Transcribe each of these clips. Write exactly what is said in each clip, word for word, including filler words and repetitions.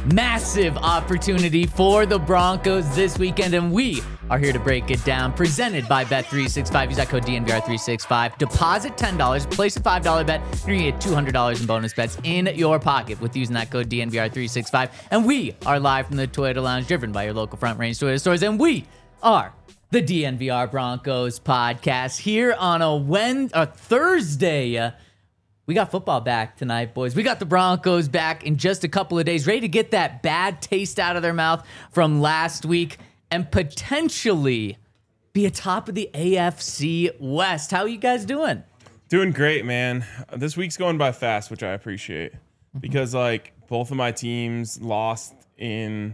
Massive opportunity for the Broncos this weekend, and we are here to break it down. Presented by Bet three sixty-five. Use that code D N V R three sixty-five. Deposit ten dollars. Place a five dollar bet. You're going to get two hundred dollars in bonus bets in your pocket with using that code D N V R three sixty-five. And we are live from the Toyota Lounge, driven by your local Front Range Toyota stores. And we are the D N V R Broncos podcast here on a Wednesday, a Thursday. We got football back tonight, boys. We got the Broncos back in just a couple of days, ready to get that bad taste out of their mouth from last week and potentially be atop of the A F C West. How are you guys doing? Doing great, man. This week's going by fast, which I appreciate because, like, both of my teams lost in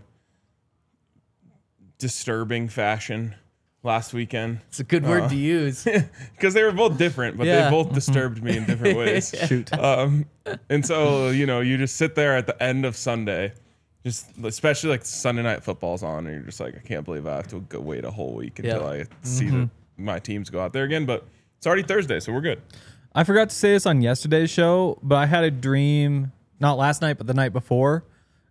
disturbing fashion last weekend. It's a good word uh, to use. Because they were both different, but Yeah. they both disturbed me in different ways. Shoot. Um, and so, you know, you just sit there at the end of Sunday, just especially like Sunday night football's on, and you're just like, I can't believe I have to go wait a whole week until Yep. I see the, my teams go out there again. But it's already Thursday, so we're good. I forgot to say this on yesterday's show, but I had a dream, not last night, but the night before,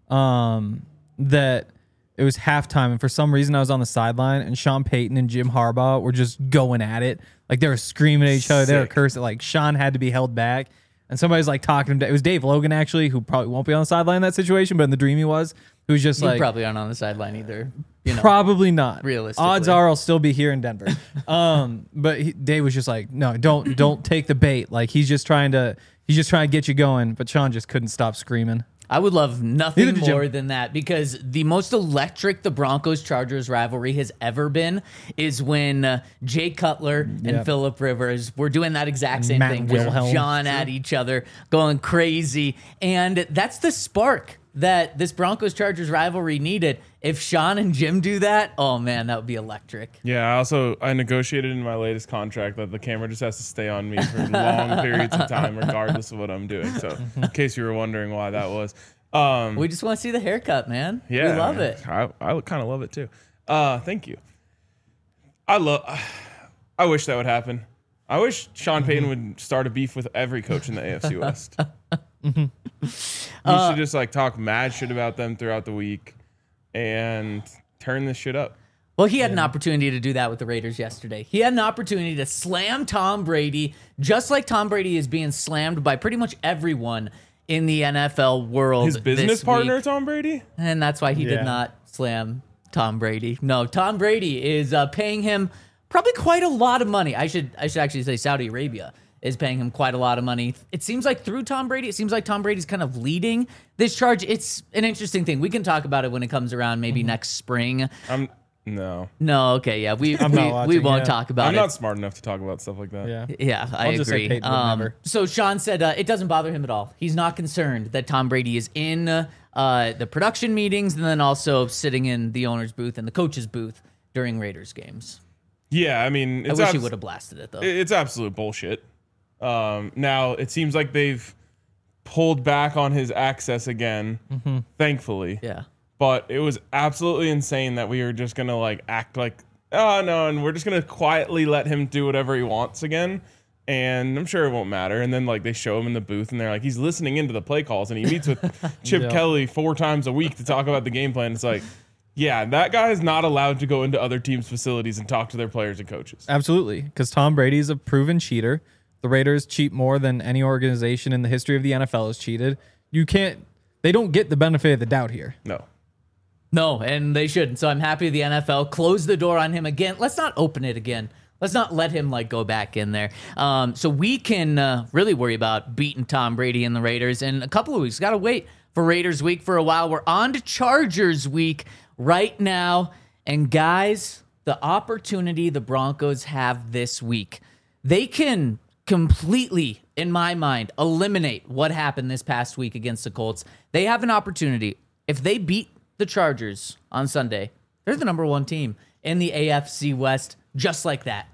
um, that it was halftime, and for some reason I was on the sideline, and Sean Payton and Jim Harbaugh were just going at it. Like, they were screaming at each other. They were Sick. cursing. Like, Sean had to be held back, and somebody's like talking to him. It was Dave Logan, actually, who probably won't be on the sideline in that situation, but in the dream he was, who was just You like, probably aren't on the sideline either. You know. probably not. Realistically. Odds are I'll still be here in Denver. um, but he, Dave was just like, no, don't don't take the bait. Like, he's just trying to he's just trying to get you going. But Sean just couldn't stop screaming. I would love nothing Neither did Jim. more than that, because the most electric the Broncos-Chargers rivalry has ever been is when uh, Jay Cutler and Yep. Phillip Rivers were doing that exact same Matt thing. Wilhelm. Just John at each other, going crazy. And that's the spark that this Broncos-Chargers rivalry needed. If Sean and Jim do that, oh man, that would be electric. Yeah, I also I negotiated in my latest contract that the camera just has to stay on me for long periods of time, regardless of what I'm doing. So, in case you were wondering why that was, um, We just want to see the haircut, man. yeah, We love it. I I kind of love it too. Uh, thank you. I love. I wish that would happen. I wish Sean Payton would start a beef with every coach in the A F C West. He should just like talk mad shit about them throughout the week and turn this shit up. Well, he had an opportunity to do that with the Raiders yesterday. He had an opportunity to slam Tom Brady, just like Tom Brady is being slammed by pretty much everyone in the N F L world. His business this partner, week. Tom Brady? And that's why he Yeah. did not slam Tom Brady. No, Tom Brady is uh, paying him probably quite a lot of money. I should I should actually say Saudi Arabia is paying him quite a lot of money. It seems like through Tom Brady, it seems like Tom Brady's kind of leading this charge. It's an interesting thing. We can talk about it when it comes around, maybe next spring. I'm no. No, okay, yeah, we I'm we, not we watching, won't yeah. talk about I'm it. not smart enough to talk about stuff like that. Yeah. Yeah, I I'll just say agree. Peyton would Um, never. so Sean said uh, it doesn't bother him at all. He's not concerned that Tom Brady is in uh, the production meetings and then also sitting in the owner's booth and the coach's booth during Raiders games. Yeah, I mean, I it's wish he abs- would have blasted it though. it's absolute bullshit. Um, now it seems like they've pulled back on his access again, thankfully. yeah. But it was absolutely insane that we were just gonna like act like, oh no, and we're just gonna quietly let him do whatever he wants again. And I'm sure it won't matter. And then like they show him in the booth and they're like, he's listening into the play calls and he meets with Chip Yeah. Kelly four times a week to talk about the game plan. It's like, yeah, that guy is not allowed to go into other teams' facilities and talk to their players and coaches. Absolutely, because Tom Brady's a proven cheater. The Raiders cheat more than any organization in the history of the N F L has cheated. You can't. They don't get the benefit of the doubt here. No. No, and they shouldn't. So I'm happy the N F L closed the door on him again. Let's not open it again. Let's not let him like go back in there. Um, so we can uh, really worry about beating Tom Brady and the Raiders in a couple of weeks. Got to wait for Raiders week for a while. We're on to Chargers week right now. And guys, the opportunity the Broncos have this week, they can completely, in my mind, eliminate what happened this past week against the Colts. They have an opportunity. If they beat the Chargers on Sunday, they're the number one team in the A F C West, just like that.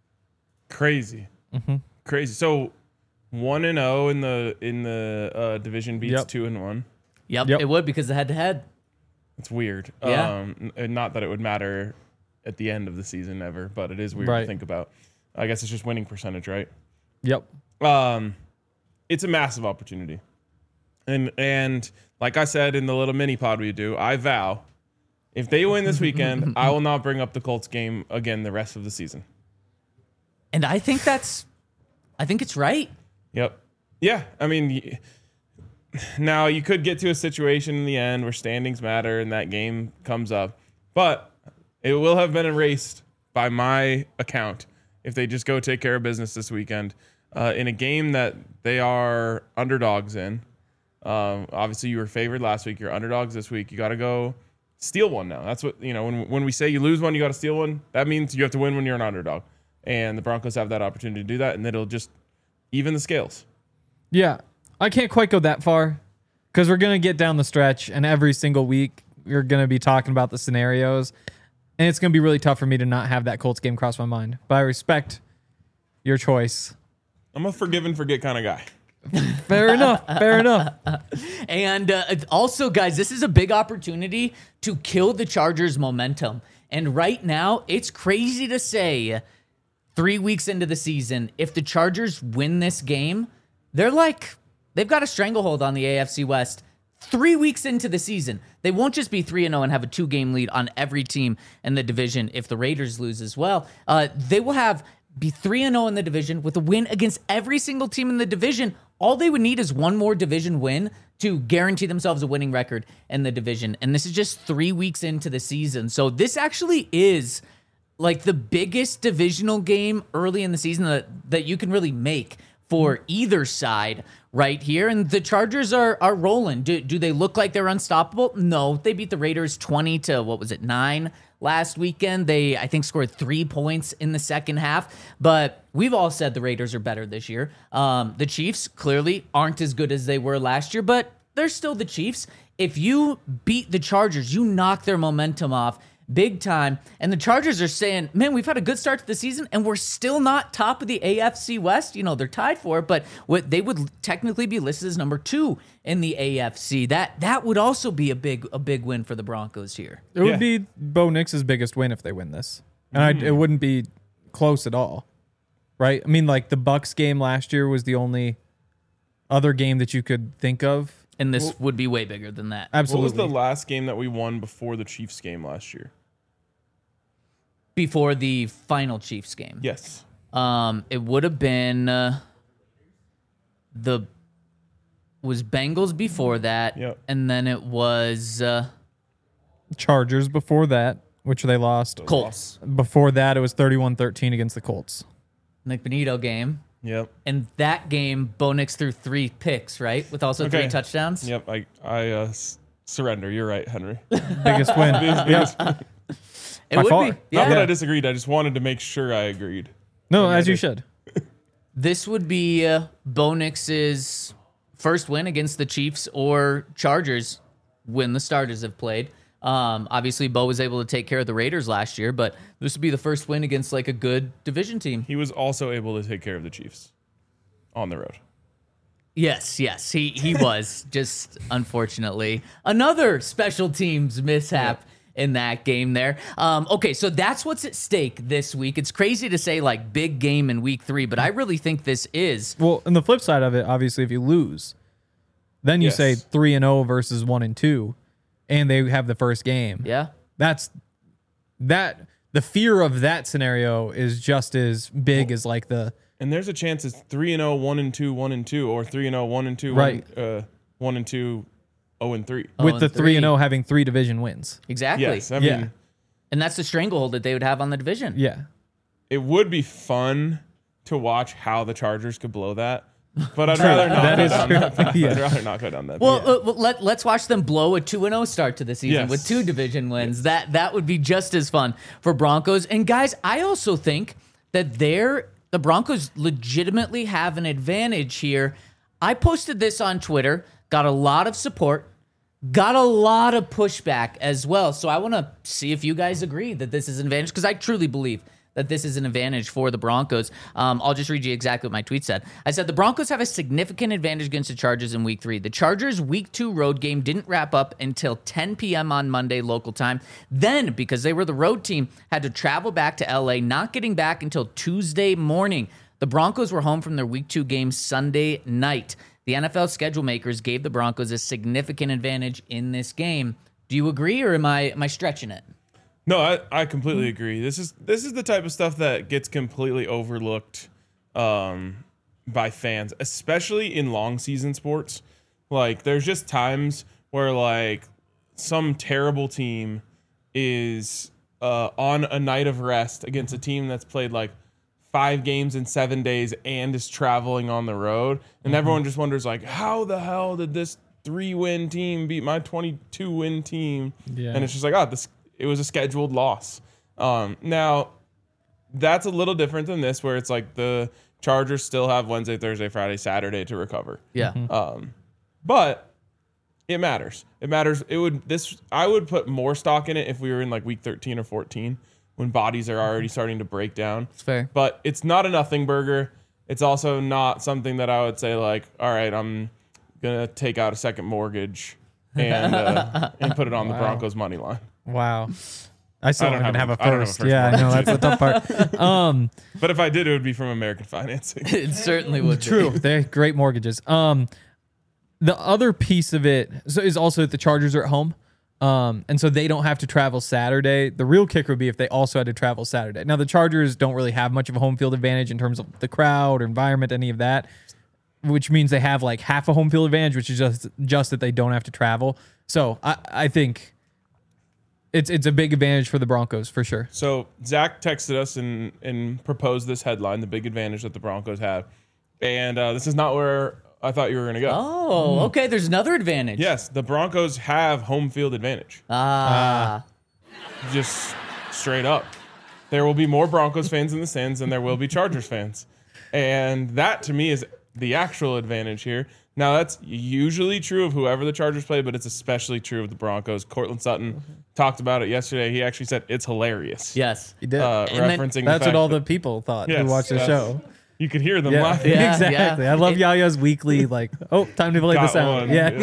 Crazy. Crazy. So one and oh in the in the uh, division beats Yep. two and one. Yep, Yep. it would because the head-to-head. It's weird. Yeah. Um, n- not that it would matter at the end of the season ever, but it is weird Right. to think about. I guess it's just winning percentage, right? Yep. Um, it's a massive opportunity. And and like I said in the little mini pod we do, I vow, if they win this weekend, I will not bring up the Colts game again the rest of the season. And I think that's, I think it's right. Yep. Yeah. I mean, y- now you could get to a situation in the end where standings matter and that game comes up, but it will have been erased by my account if they just go take care of business this weekend uh, in a game that they are underdogs in. Um, obviously, you were favored last week. You're underdogs this week. You got to go steal one now. That's what, you know, when when we say you lose one, you got to steal one. That means you have to win when you're an underdog. And the Broncos have that opportunity to do that, and it'll just even the scales. Yeah, I can't quite go that far because we're going to get down the stretch, and every single week you're going to be talking about the scenarios, and it's going to be really tough for me to not have that Colts game cross my mind. But I respect your choice. I'm a forgive and forget kind of guy. Fair enough. Fair enough. And uh, also, guys, this is a big opportunity to kill the Chargers' momentum. And right now, it's crazy to say, three weeks into the season, if the Chargers win this game, they're like, they've got a stranglehold on the A F C West. Three weeks into the season, they won't just be three and oh and have a two-game lead on every team in the division if the Raiders lose as well. Uh, they will have be three and oh in the division with a win against every single team in the division. All they would need is one more division win to guarantee themselves a winning record in the division. And this is just three weeks into the season. So this actually is like the biggest divisional game early in the season that, that you can really make for either side right here. And the Chargers are are rolling. Do, do they look like they're unstoppable? No. They beat the Raiders twenty to, what was it, nine last weekend. They, I think, scored three points in the second half. But we've all said the Raiders are better this year. Um, the Chiefs clearly aren't as good as they were last year, but they're still the Chiefs. If you beat the Chargers, you knock their momentum off big time. And the Chargers are saying, man, we've had a good start to the season and we're still not top of the A F C West. You know, they're tied for it, but what they would technically be listed as number two in the A F C. That that would also be a big a big win for the Broncos here. It would Yeah. be Bo Nix's biggest win if they win this. And I, it wouldn't be close at all. Right? I mean, like the Bucks game last year was the only other game that you could think of. And this would be way bigger than that. Absolutely. What was the last game that we won before the Chiefs game last year? Before the final Chiefs game. Yes. Um, it would have been uh, the was Bengals before that, Yep. and then it was uh, Chargers before that, which they lost. Colts. Before that, it was thirty-one thirteen against the Colts. Nick Benito game. Yep. And that game, Bo Nix threw three picks, right? With also Okay. three touchdowns. Yep. I I uh, s- surrender. You're right, Henry. Biggest win. Yeah. It By would far. be. Yeah. Not that I disagreed. I just wanted to make sure I agreed. No, as you should. This would be uh, Bo Nix's first win against the Chiefs or Chargers when the starters have played. Um, obviously, Bo was able to take care of the Raiders last year, but this would be the first win against like a good division team. He was also able to take care of the Chiefs on the road. Yes, yes, he he was. Just unfortunately, another special teams mishap in that game there. Um, okay, so that's what's at stake this week. It's crazy to say like big game in week three, but I really think this is. Well, and the flip side of it, obviously, if you lose, then you Yes. say three and zero versus one and two, and they have the first game. Yeah. That's that. The fear of that scenario is just as big as like the And there's a chance it's three and oh, one and two, one and two, or three and oh, one and two, Right. one, uh, one and two, oh and three. Oh, with and the three and three. zero having three division wins. Exactly. Yes, I Yeah. mean, And that's the stranglehold that they would have on the division. Yeah. it would be fun to watch how the Chargers could blow that, but I'd rather not. That go is down true. that path. Yeah. I'd rather not go down that. Well, path. uh, well, let, let's watch them blow a two and oh start to the season Yes. with two division wins. That that would be just as fun for Broncos. And guys, I also think that they're the Broncos legitimately have an advantage here. I posted this on Twitter, got a lot of support, got a lot of pushback as well. So I want to see if you guys agree that this is an advantage, because I truly believe that this is an advantage for the Broncos. Um, I'll just read you exactly what my tweet said. I said, the Broncos have a significant advantage against the Chargers in week three. The Chargers' week two road game didn't wrap up until ten p.m. on Monday local time. Then, because they were the road team, had to travel back to L A, not getting back until Tuesday morning. The Broncos were home from their week two game Sunday night. the N F L schedule makers gave the Broncos a significant advantage in this game. Do you agree, or am I am I stretching it? No, I, I completely agree. This is this is the type of stuff that gets completely overlooked um, by fans, especially in long season sports. Like, there's just times where like some terrible team is uh, on a night of rest against a team that's played like five games in seven days and is traveling on the road, and mm-hmm. everyone just wonders like, how the hell did this three-win team beat my twenty-two win team? Yeah. And it's just like, oh, this it was a scheduled loss. Um, now, that's a little different than this, where it's like the Chargers still have Wednesday, Thursday, Friday, Saturday to recover. Yeah. Mm-hmm. Um, but it matters. It matters. It would this I would put more stock in it if we were in like week thirteen or fourteen, when bodies are already starting to break down. It's fair. But it's not a nothing burger. It's also not something that I would say like, all right, I'm gonna take out a second mortgage and uh, and put it on wow. the Broncos money line. Wow. I still I don't don't even have have a- a I don't have a first. first Yeah, I know that's the tough part. Um, But if I did, it would be from American Financing. It certainly would. True. Be. They're great mortgages. Um, the other piece of it so is also that the Chargers are at home. Um, and so they don't have to travel Saturday. The real kicker would be if they also had to travel Saturday. Now, the Chargers don't really have much of a home field advantage in terms of the crowd or environment, any of that, which means they have like half a home field advantage, which is just just that they don't have to travel. So I, I think it's it's a big advantage for the Broncos for sure. So Zach texted us and, and proposed this headline, the big advantage that the Broncos have. And uh, this is not where I thought you were going to go. Oh, okay. There's another advantage. Yes, the Broncos have home field advantage. Ah. Just straight up. There will be more Broncos fans in the stands than there will be Chargers fans. And that, to me, is the actual advantage here. Now, that's usually true of whoever the Chargers play, but it's especially true of the Broncos. Cortland Sutton mm-hmm. talked about it yesterday. He actually said it's hilarious. Yes. He did. Uh, And referencing then- the That's fact what all that- the people thought Yes, who watched the that's- show. You could hear them Yeah, laughing. Yeah, exactly. yeah. I love It- Yaya's weekly, like, oh, time to play Got this out. one, Yeah.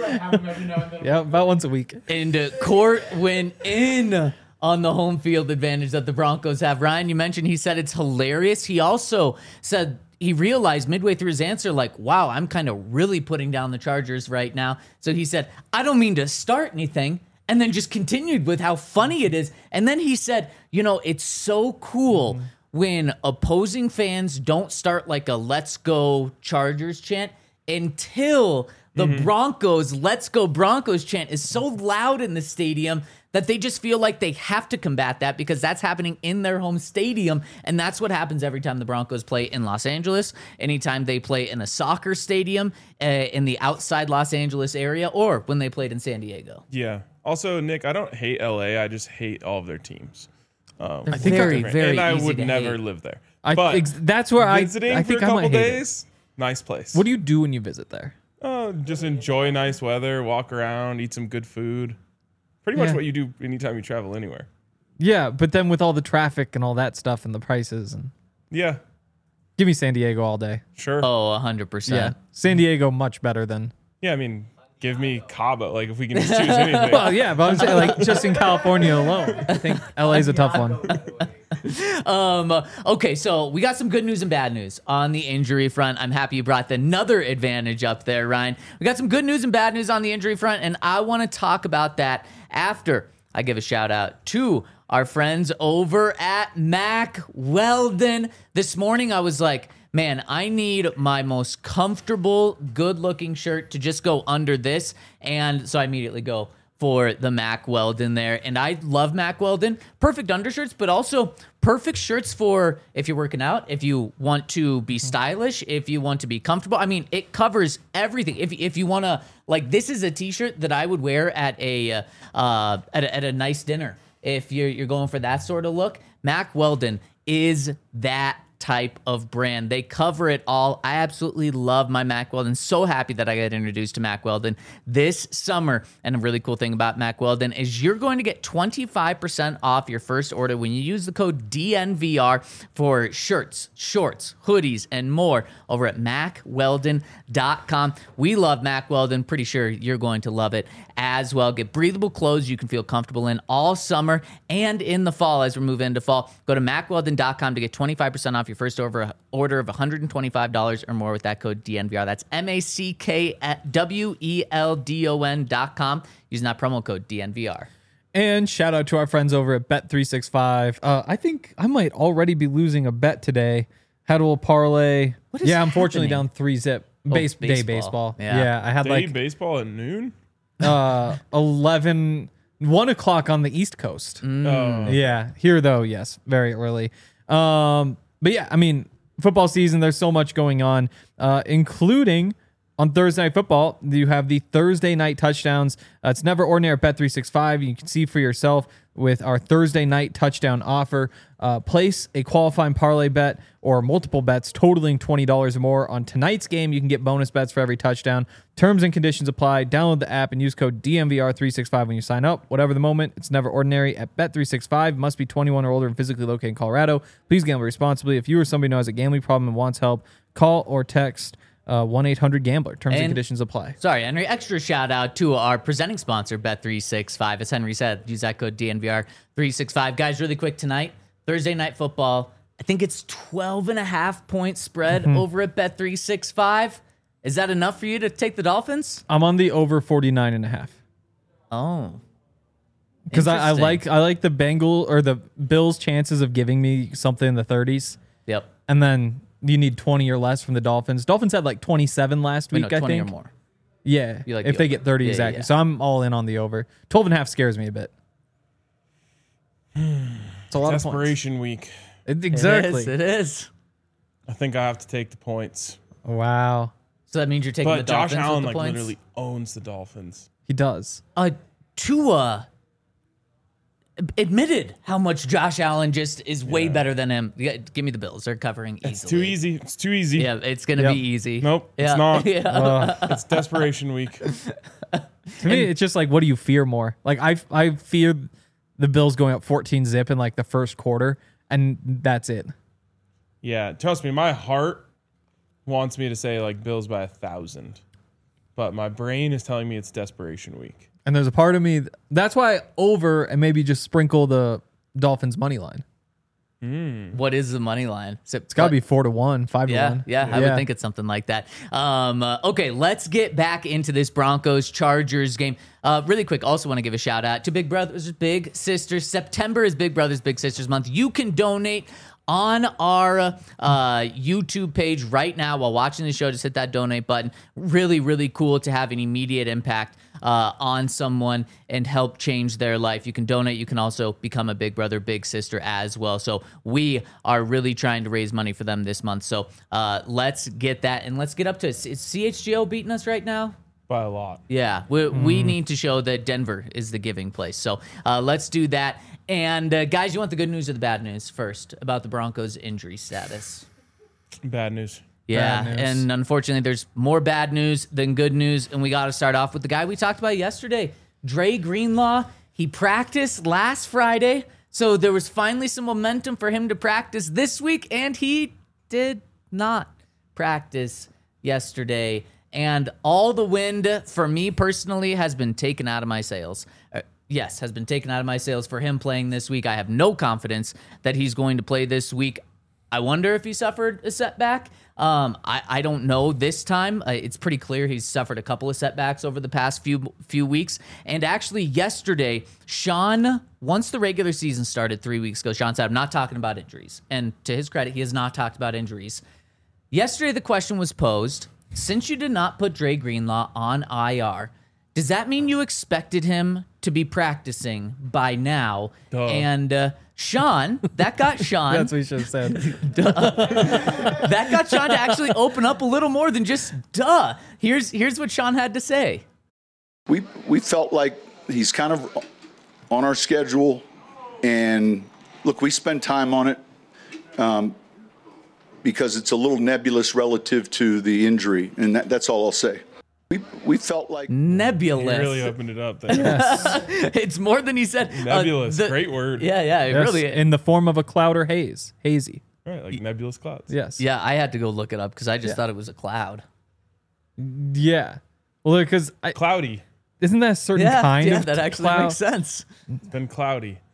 yeah. Yeah, about once a week. And uh, Court went in on the home field advantage that the Broncos have. Ryan, you mentioned he said it's hilarious. He also said he realized midway through his answer, like, wow, I'm kind of really putting down the Chargers right now. So he said, I don't mean to start anything. And then just continued with how funny it is. And then he said, you know, it's so cool mm-hmm. when opposing fans don't start like a let's go Chargers chant until the mm-hmm. Broncos let's go Broncos chant is so loud in the stadium that they just feel like they have to combat that because that's happening in their home stadium. And that's what happens every time the Broncos play in Los Angeles, anytime they play in a soccer stadium uh, in the outside Los Angeles area, or when they played in San Diego. Yeah. Also, Nick, I don't hate L A. I just hate all of their teams. Um, I think very, very and I easy would to never hate. live there. I, But ex- that's where I, visiting I for think a I couple might hate it. days, nice place. What do you do when you visit there? Uh, just enjoy nice weather, walk around, eat some good food. Pretty much Yeah. what you do anytime you travel anywhere. Yeah, but then with all the traffic and all that stuff and the prices, and Yeah, give me San Diego all day. sure. Oh, one hundred percent. Yeah, San Diego much better than. Yeah, I mean, give me Cabo. Like, if we can just choose anything. Well, yeah, but I'm saying like just in California alone, I think L A is a tough one. Um, okay, so we got some good news and bad news on the injury front. I'm happy you brought another advantage up there, Ryan. We got some good news and bad news on the injury front, and I want to talk about that after I give a shout out to our friends over at Mack Weldon. This morning I was like, man, I need my most comfortable, good-looking shirt to just go under this, and so I immediately go for the Mack Weldon there. And I love Mack Weldon. Perfect undershirts, but also perfect shirts for if you're working out, if you want to be stylish, if you want to be comfortable. I mean, it covers everything. If if you want to, like, this is a t-shirt that I would wear at a uh, uh at a, at a nice dinner. If you're you're going for that sort of look, Mack Weldon is that type of brand. They cover it all. I absolutely love my Mack Weldon. So happy that I got introduced to Mack Weldon this summer. And a really cool thing about Mack Weldon is you're going to get twenty-five percent off your first order when you use the code D N V R for shirts, shorts, hoodies, and more over at mack weldon dot com. We love Mack Weldon. Pretty sure you're going to love it as well. Get breathable clothes you can feel comfortable in all summer and in the fall as we move into fall. Go to mack weldon dot com to get twenty-five percent off off your first over order of one hundred twenty-five dollars or more with that code D N V R. That's M A C K W E L D O N dot com. Using that promo code D N V R. And shout out to our friends over at Bet three sixty-five. Uh, I think I might already be losing a bet today. Had a little parlay. What is yeah, unfortunately happening? down three zip. Base, Oh, Day baseball. baseball. Yeah. Yeah, I had Day like baseball at noon. uh, eleven, one o'clock on the East Coast. Oh. Yeah, here though, yes, very early. Um, but yeah, I mean, football season, there's so much going on, uh, including on Thursday Night Football. You have the Thursday night touchdowns. Uh, it's never ordinary at Bet three sixty-five. You can see for yourself with our Thursday night touchdown offer. Uh, place a qualifying parlay bet or multiple bets totaling twenty dollars or more on tonight's game. You can get bonus bets for every touchdown. Terms and conditions apply. Download the app and use code D N V R three sixty-five when you sign up. Whatever the moment, it's never ordinary at Bet three sixty-five. Must be twenty-one or older and physically located in Colorado. Please gamble responsibly. If you or somebody who has a gambling problem and wants help, call or text uh, one eight hundred gambler. Terms and, And- conditions apply. Sorry, Henry. Extra shout out to our presenting sponsor, Bet three sixty-five. As Henry said, use that code D N V R three sixty-five. Guys, really quick tonight, Thursday Night Football. I think it's twelve and a half point spread Mm-hmm. over at Bet three sixty-five. Is that enough for you to take the Dolphins? I'm on the over forty-nine and a half. Oh. Because I, I Interesting. like I like the Bengal or the Bills' chances of giving me something in the thirties, Yep. and then you need twenty or less from the Dolphins. Dolphins had like twenty-seven last We week, know I twenty think. or more. Yeah, You like if the they over. get thirty Yeah, exactly. yeah. So I'm all in on the over. twelve and a half scares me a bit. It's a lot of points. Desperation week. It- exactly. It is. It is. I think I have to take the points. Wow, So that means you're taking the But Josh Dolphins Allen with the like points? literally owns the Dolphins. he does. Uh, Tua admitted how much Josh Allen just is way Yeah. better than him. Yeah, give me the Bills. They're covering easily. It's too easy. It's too easy. Yeah, it's going to Yep. be easy. Nope, Yeah. it's not. Yeah. Uh, It's desperation week. to me, it's just like, what do you fear more? Like I, I fear the Bills going up fourteen zip in like the first quarter, and that's it. Yeah, trust me, my heart wants me to say like Bills by a thousand, but my brain is telling me it's desperation week. And there's a part of me that's why over and maybe just sprinkle the Dolphins money line. What is the money line? Is it- It's got to be four to one, five Yeah, to one. yeah, I would think it's something like that. Um, uh, okay, let's get back into this Broncos Chargers game. Uh, really quick, also want to give a shout out to Big Brothers Big Sisters. September is Big Brothers Big Sisters month. You can donate on our uh, YouTube page right now while watching the show. Just hit that donate button. Really, really cool to have an immediate impact uh, on someone and help change their life. You can donate. You can also become a Big Brother, Big Sister as well. So we are really trying to raise money for them this month. So uh, let's get that, and let's get up to, is C H G O beating us right now? By a lot. Yeah, we, we need to show that Denver is the giving place. So uh, let's do that. And uh, guys, you want the good news or the bad news first about the Broncos' injury status? Bad news. Yeah, Bad news. and unfortunately, there's more bad news than good news. And we got to start off with the guy we talked about yesterday, Dre Greenlaw. He practiced last Friday, so there was finally some momentum for him to practice this week, and he did not practice yesterday. And all the wind for me personally has been taken out of my sails. Uh, yes, has been taken out of my sails for him playing this week. I have no confidence that he's going to play this week. I wonder if he suffered a setback. Um, I, I don't know this time. Uh, it's pretty clear he's suffered a couple of setbacks over the past few few weeks. And actually yesterday, Sean, once the regular season started three weeks ago, Sean said, I'm not talking about injuries. And to his credit, he has not talked about injuries. Yesterday, the question was posed, since you did not put Dre Greenlaw on I R, does that mean you expected him to be practicing by now? Duh. And uh, Sean, that got Sean. That's what you should have said. that got Sean to actually open up a little more than just duh. Here's here's what Sean had to say. We we felt like he's kind of on our schedule, and look, we spend time on it um, because it's a little nebulous relative to the injury, and that, that's all I'll say. We we felt like You Nebulous. really opened it up there. It's more than he said. Uh, Nebulous. the- Great word. Yeah, yeah, it Yes, really. in the form of a cloud or haze, hazy. Right, like nebulous clouds. Yes. yeah, I had to go look it up because I just Yeah. thought it was a cloud. Yeah. Well, because Cloudy. isn't that a certain Yeah, kind yeah, of that actually cloud? makes sense. It's been cloudy.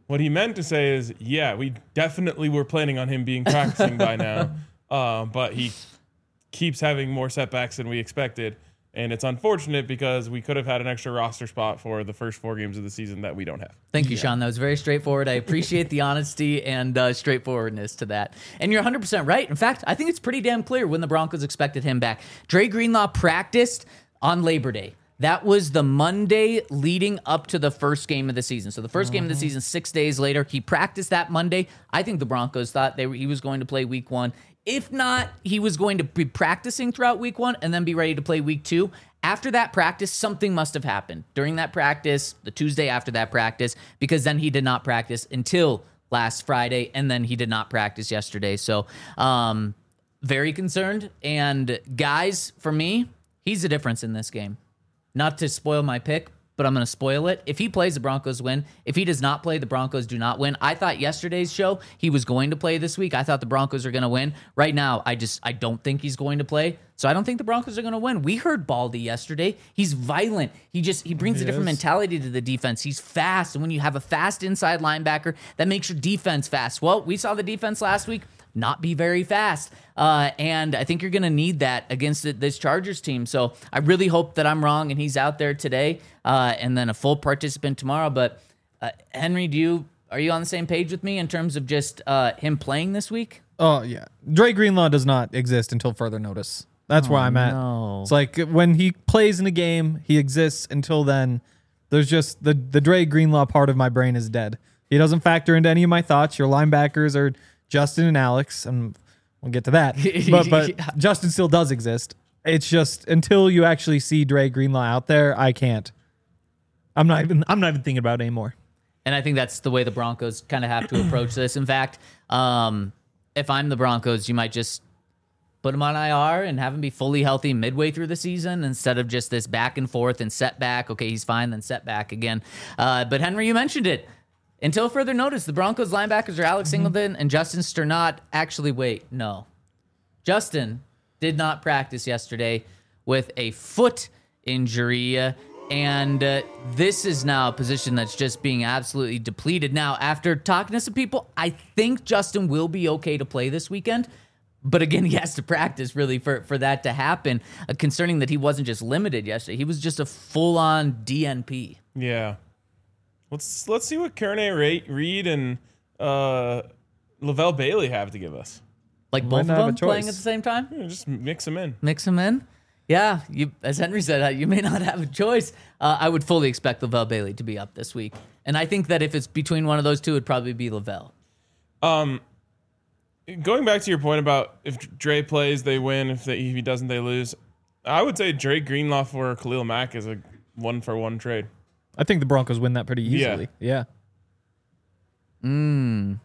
What he meant to say is, yeah, we definitely were planning on him being practicing by now, uh, but he keeps having more setbacks than we expected. And it's unfortunate because we could have had an extra roster spot for the first four games of the season that we don't have. Thank you, Sean. That was very straightforward. I appreciate the honesty and uh, straightforwardness to that. And you're one hundred percent right. In fact, I think it's pretty damn clear when the Broncos expected him back. Dre Greenlaw practiced on Labor Day. That was the Monday leading up to the first game of the season. So the first game of the season, six days later, he practiced that Monday. I think the Broncos thought they were, he was going to play week one. If not, he was going to be practicing throughout week one and then be ready to play week two. After that practice, something must have happened during that practice, the Tuesday after that practice, because then he did not practice until last Friday, and then he did not practice yesterday. So um, very concerned. And guys, for me, he's the difference in this game. Not to spoil my pick, but I'm going to spoil it. If he plays, the Broncos win. If he does not play, the Broncos do not win. I thought yesterday's show he was going to play this week. I thought the Broncos are going to win. Right now, I just I don't think he's going to play. So I don't think the Broncos are going to win. We heard Baldy yesterday. He's violent. He just he brings He a different is. mentality to the defense. He's fast, and when you have a fast inside linebacker, that makes your defense fast. Well, we saw the defense last week not be very fast. Uh, and I think you're going to need that against this Chargers team. So I really hope that I'm wrong and he's out there today uh, and then a full participant tomorrow. But uh, Henry, do you are you on the same page with me in terms of just uh, him playing this week? Oh, yeah. Dre Greenlaw does not exist until further notice. That's where I'm at. no. It's like when he plays in a game, he exists. Until then, there's just the, the Dre Greenlaw part of my brain is dead. He doesn't factor into any of my thoughts. Your linebackers are Justin and Alex, and we'll get to that. But but Yeah. Justin still does exist. It's just until you actually see Dre Greenlaw out there, I can't. I'm not even I'm not even thinking about it anymore. And I think that's the way the Broncos kind of have to approach this. In fact, um, if I'm the Broncos, you might just put him on I R and have him be fully healthy midway through the season instead of just this back and forth and setback. Okay, he's fine, then setback again. Uh, but Henry, you mentioned it. Until further notice, the Broncos linebackers are Alex Singleton and Justin Sternot. Actually, wait, no. Justin did not practice yesterday with a foot injury. uh, And uh, this is now a position that's just being absolutely depleted. Now, after talking to some people, I think Justin will be okay to play this weekend. But again, he has to practice really for, for that to happen, uh, concerning that he wasn't just limited yesterday. He was just a full-on D N P. Yeah. Let's let's see what Kearney Reed and uh, Lavelle Bailey have to give us. Like Might both of not have a them playing choice. at the same time? Yeah, just mix them in. Mix them in? Yeah, you, as Henry said, uh, you may not have a choice. Uh, I would fully expect Lavelle Bailey to be up this week. And I think that if it's between one of those two, it'd probably be Lavelle. Um, going back to your point about if Dre plays, they win. If, they, if he doesn't, they lose. I would say Dre Greenlaw for Khalil Mack is a one-for-one trade. I think the Broncos win that pretty Yeah. easily. Yeah. Mm.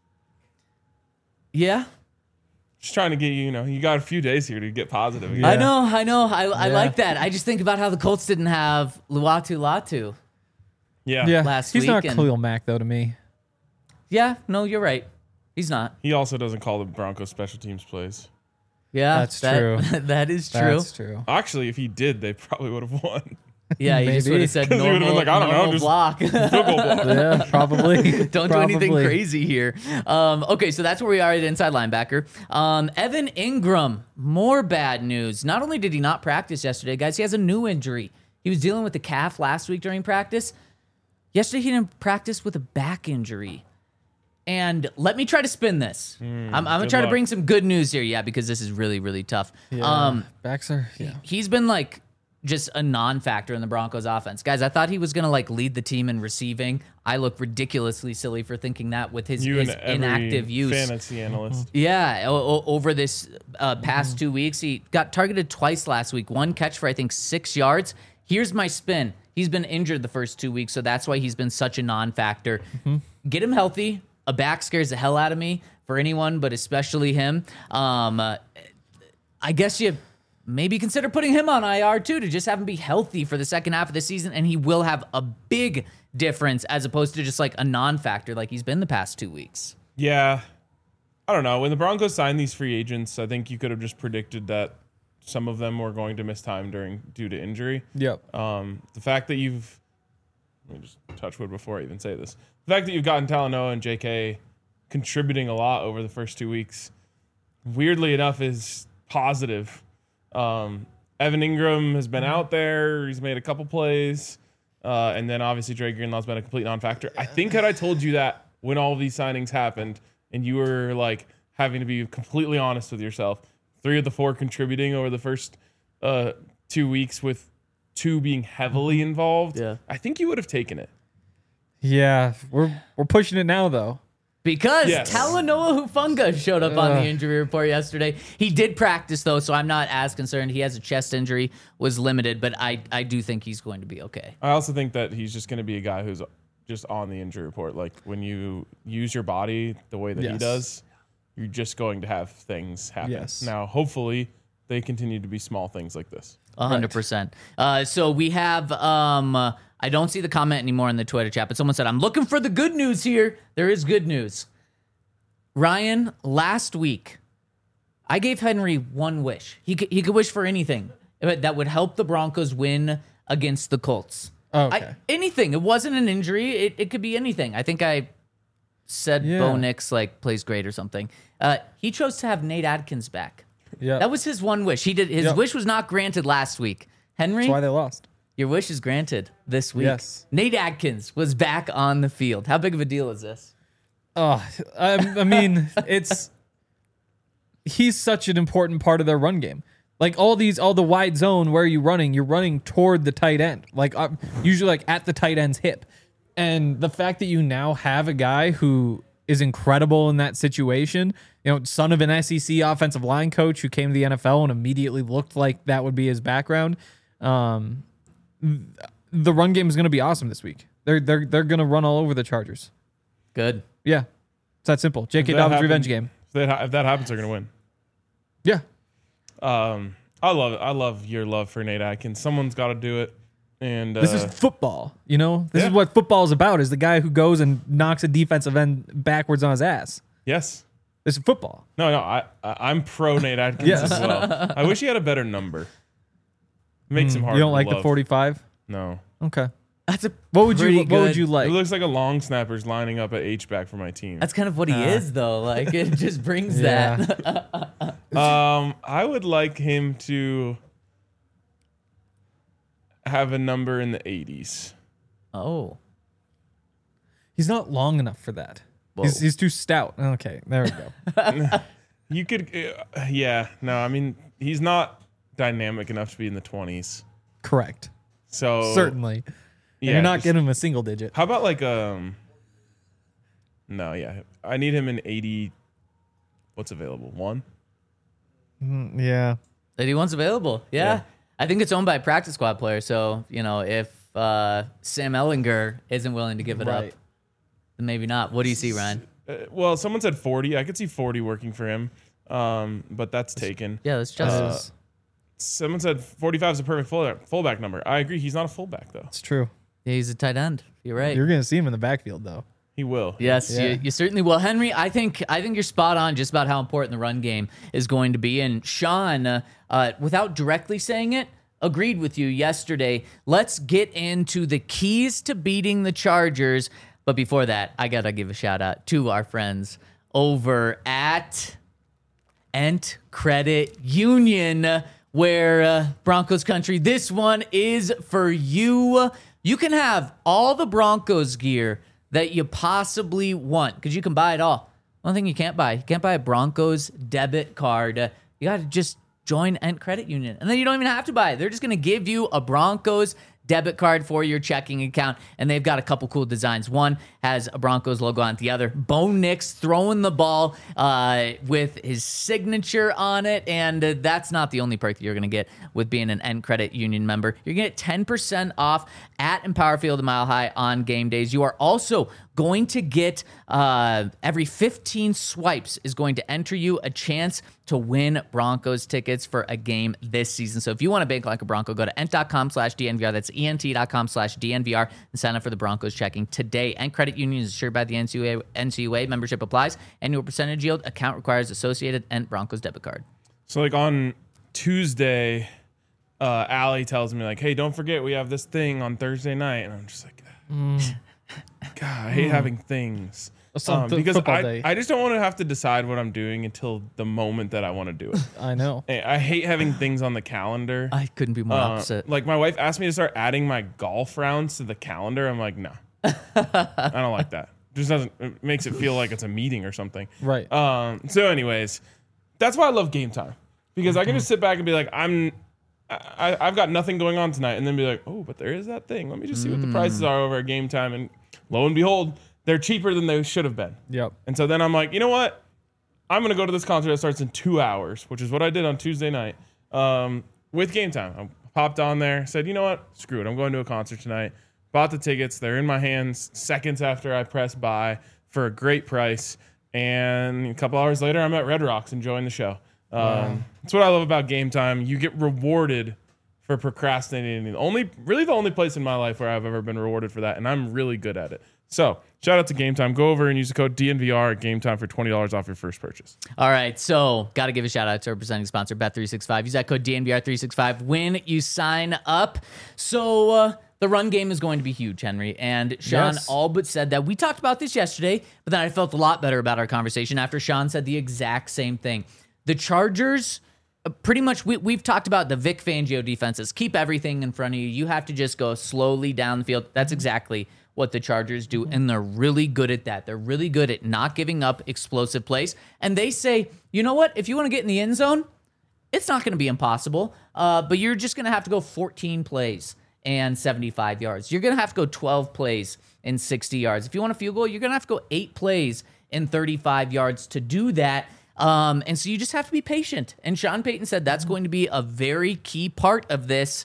Yeah. Just trying to get you, you know, you got a few days here to get positive again. I know, I know. I, I Yeah. like that. I just think about how the Colts didn't have Luatu Latu. Yeah. Yeah. Last He's not week and- Khalil Mack, though, to me. Yeah, no, you're right. He's not. He also doesn't call the Broncos special teams plays. Yeah, That's that- true. that is true. That's true. Actually, if he did, they probably would have won. Yeah, you just Maybe. would have said 'Cause he would've normal, been like, I don't know, normal just- block. Field goal block. Yeah, probably. Don't do anything Probably. crazy here. Um, okay, so that's where we are at inside linebacker. Um, Evan Ingram, more bad news. Not only did he not practice yesterday, guys, he has a new injury. He was dealing with the calf last week during practice. Yesterday, he didn't practice with a back injury. And let me try to spin this. I'm, I'm going to good try to luck. bring some good news here. Yeah, because this is really, really tough. Yeah. Um, Backs are, yeah. he's been like just a non-factor in the Broncos offense. Guys, I thought he was going to like lead the team in receiving. I look ridiculously silly for thinking that with his, You his and every inactive use. fantasy analyst. Yeah, o- o- over this uh, past two weeks, he got targeted twice last week. One catch for, I think, six yards. Here's my spin. He's been injured the first two weeks, so that's why he's been such a non-factor. Get him healthy. A back scares the hell out of me for anyone, but especially him. Um, uh, I guess you maybe consider putting him on I R too to just have him be healthy for the second half of the season, and he will have a big difference as opposed to just like a non-factor like he's been the past two weeks. Yeah. I don't know. When the Broncos signed these free agents, I think you could have just predicted that some of them were going to miss time during due to injury. Yep. Um, the fact that you've let me just touch wood before I even say this. The fact that you've gotten Talanoa and J K contributing a lot over the first two weeks, weirdly enough, is positive. Um, Evan Ingram has been out there. He's made a couple plays. Uh, and then obviously Dre Greenlaw's been a complete non-factor. I think had I told you that when all of these signings happened and you were like having to be completely honest with yourself, three of the four contributing over the first uh, two weeks with two being heavily involved, Yeah. I think you would have taken it. Yeah, we're we're pushing it now though. Because Yes. Talanoa Hufanga showed up on the injury report yesterday. He did practice, though, so I'm not as concerned. He has a chest injury, was limited, but I, I do think he's going to be okay. I also think that he's just going to be a guy who's just on the injury report. Like when you use your body the way that he Yes. does, you're just going to have things happen. Yes. Now, hopefully, they continue to be small things like this. A hundred percent. Uh, so we have. Um, uh, I don't see the comment anymore in the Twitter chat, but someone said, "I'm looking for the good news here." There is good news. Ryan, last week, I gave Henry one wish. He could, he could wish for anything that would help the Broncos win against the Colts. Okay. I, anything. It wasn't an injury. It, it could be anything. I think I said Yeah. Bo Nix like plays great or something. Uh, he chose to have Nate Adkins back. Yeah, That was his one wish. He did. His Yep. wish was not granted last week. Henry, that's why they lost. your wish is granted this week. Yes. Nate Adkins was back on the field. How big of a deal is this? Oh, I, I mean, it's he's such an important part of their run game. Like all these, all the wide zone, where are you running? You're running toward the tight end, like uh, usually like at the tight end's hip. And the fact that you now have a guy who is incredible in that situation, you know, son of an S E C offensive line coach who came to the N F L and immediately looked like that would be his background. Um, the run game is going to be awesome this week. They're they're they're going to run all over the Chargers. Good. Yeah, it's that simple. J K If that Dobbins happens- revenge game. If that, ha- if that happens, they're going to win. Yeah, Um, I love it. I love your love for Nate Atkins. Someone's got to do it. And uh, this is football. You know, this yeah. is what football is about. Is the guy who goes and knocks a defensive end backwards on his ass. yes. This is football. No, no. I, I I'm pro Nate Atkins Yeah. as well. I wish he had a better number. Makes him hard. You don't to like the love. forty-five? No. Okay. That's a What would you pretty What would good- you It like? looks like a long snapper's lining up at H back for my team. That's kind of what he is, though. Like it just brings Yeah. that. Um, I would like him to have a number in the eighties. Oh, He's not long enough for that. Whoa. He's, he's too stout. Okay, there we go. You could, uh, yeah. No, I mean he's not dynamic enough to be in the twenties. Correct. So Certainly. And yeah. you're not just- getting him a single digit. How about like um? No, yeah. I need him in eighty. What's available? One. Yeah. eighty-one's available. Yeah. Yeah. I think it's owned by a practice squad player. So you know, if uh, Sam Ellinger isn't willing to give it Right. up, then maybe not. What do you see, Ryan? Uh, well, someone said forty. I could see forty working for him. Um, but that's taken. Yeah, that's just. Uh, Someone said forty-five is a perfect fullback, fullback number. I agree. He's not a fullback though. It's true. Yeah, he's a tight end. You're right. You're gonna see him in the backfield though. He will. Yes, Yeah. you, you certainly will, Henry. I think I think you're spot on just about how important the run game is going to be. And Sean, uh, uh, without directly saying it, agreed with you yesterday. Let's get into the keys to beating the Chargers. But before that, I gotta give a shout out to our friends over at Ent Credit Union, where uh, Broncos country, this one is for you. You can have all the Broncos gear that you possibly want because you can buy it all. One thing you can't buy, you can't buy a Broncos debit card. Uh, you got to just join Ent Credit Union, and then you don't even have to buy it. They're just going to give you a Broncos debit card for your checking account, and they've got a couple cool designs. One has a Broncos logo on it. The other, Bo Nix throwing the ball uh, with his signature on it, and uh, that's not the only perk that you're going to get with being an Ent Credit Union member. You're going to get ten percent off at Empower Field and Mile High on game days. You are also going to get uh, every fifteen swipes is going to enter you a chance to win Broncos tickets for a game this season. So if you want to bank like a Bronco, go to ent.com slash DNVR. That's ent.com slash DNVR and sign up for the Broncos checking today. Ent Credit Union is assured by the N C U A. N C U A membership applies. Annual percentage yield. Account requires associated Ent Broncos debit card. So like on Tuesday, uh, Allie tells me like, "Hey, don't forget we have this thing on Thursday night," and I'm just like, God, I hate Mm. having things. Some Um, th- because football I, day. I just don't want to have to decide what I'm doing until the moment that I want to do it. I know. Hey, I hate having things on the calendar. I couldn't be more Uh, opposite. Like my wife asked me to start adding my golf rounds to the calendar. I'm like, no, I don't like that. Just doesn't. It makes it feel like it's a meeting or something. Right. Um. So, anyways, that's why I love Game Time because I can just sit back and be like, I'm, I, I've got nothing going on tonight, and then be like, oh, but there is that thing. Let me just see what the prices are over at Game Time, and lo and behold, they're cheaper than they should have been. Yep. And so then I'm like, you know what? I'm gonna go to this concert that starts in two hours, which is what I did on Tuesday night um, with Game Time. I popped on there, said, you know what? Screw it. I'm going to a concert tonight. Bought the tickets. They're in my hands seconds after I press buy for a great price. And a couple hours later, I'm at Red Rocks enjoying the show. Um, wow. That's what I love about Game Time. You get rewarded for procrastinating. The only, really, the only place in my life where I've ever been rewarded for that, and I'm really good at it. So, shout out to Game Time. Go over and use the code D N V R at Game Time for twenty dollars off your first purchase. All right, so got to give a shout out to our presenting sponsor, Bet three sixty-five. Use that code D N V R three sixty-five when you sign up. So uh, the run game is going to be huge, Henry. And Sean Yes. all but said that. We talked about this yesterday, but then I felt a lot better about our conversation after Sean said the exact same thing. The Chargers, uh, pretty much, we, we've talked about the Vic Fangio defenses. Keep everything in front of you. You have to just go slowly down the field. That's exactly what the Chargers do, and they're really good at that. They're really good at not giving up explosive plays. And they say, you know what? If you want to get in the end zone, it's not going to be impossible, uh, but you're just going to have to go fourteen plays and seventy-five yards. You're going to have to go twelve plays and sixty yards. If you want a field goal, you're going to have to go eight plays and thirty-five yards to do that. Um, and so you just have to be patient. And Sean Payton said that's going to be a very key part of this.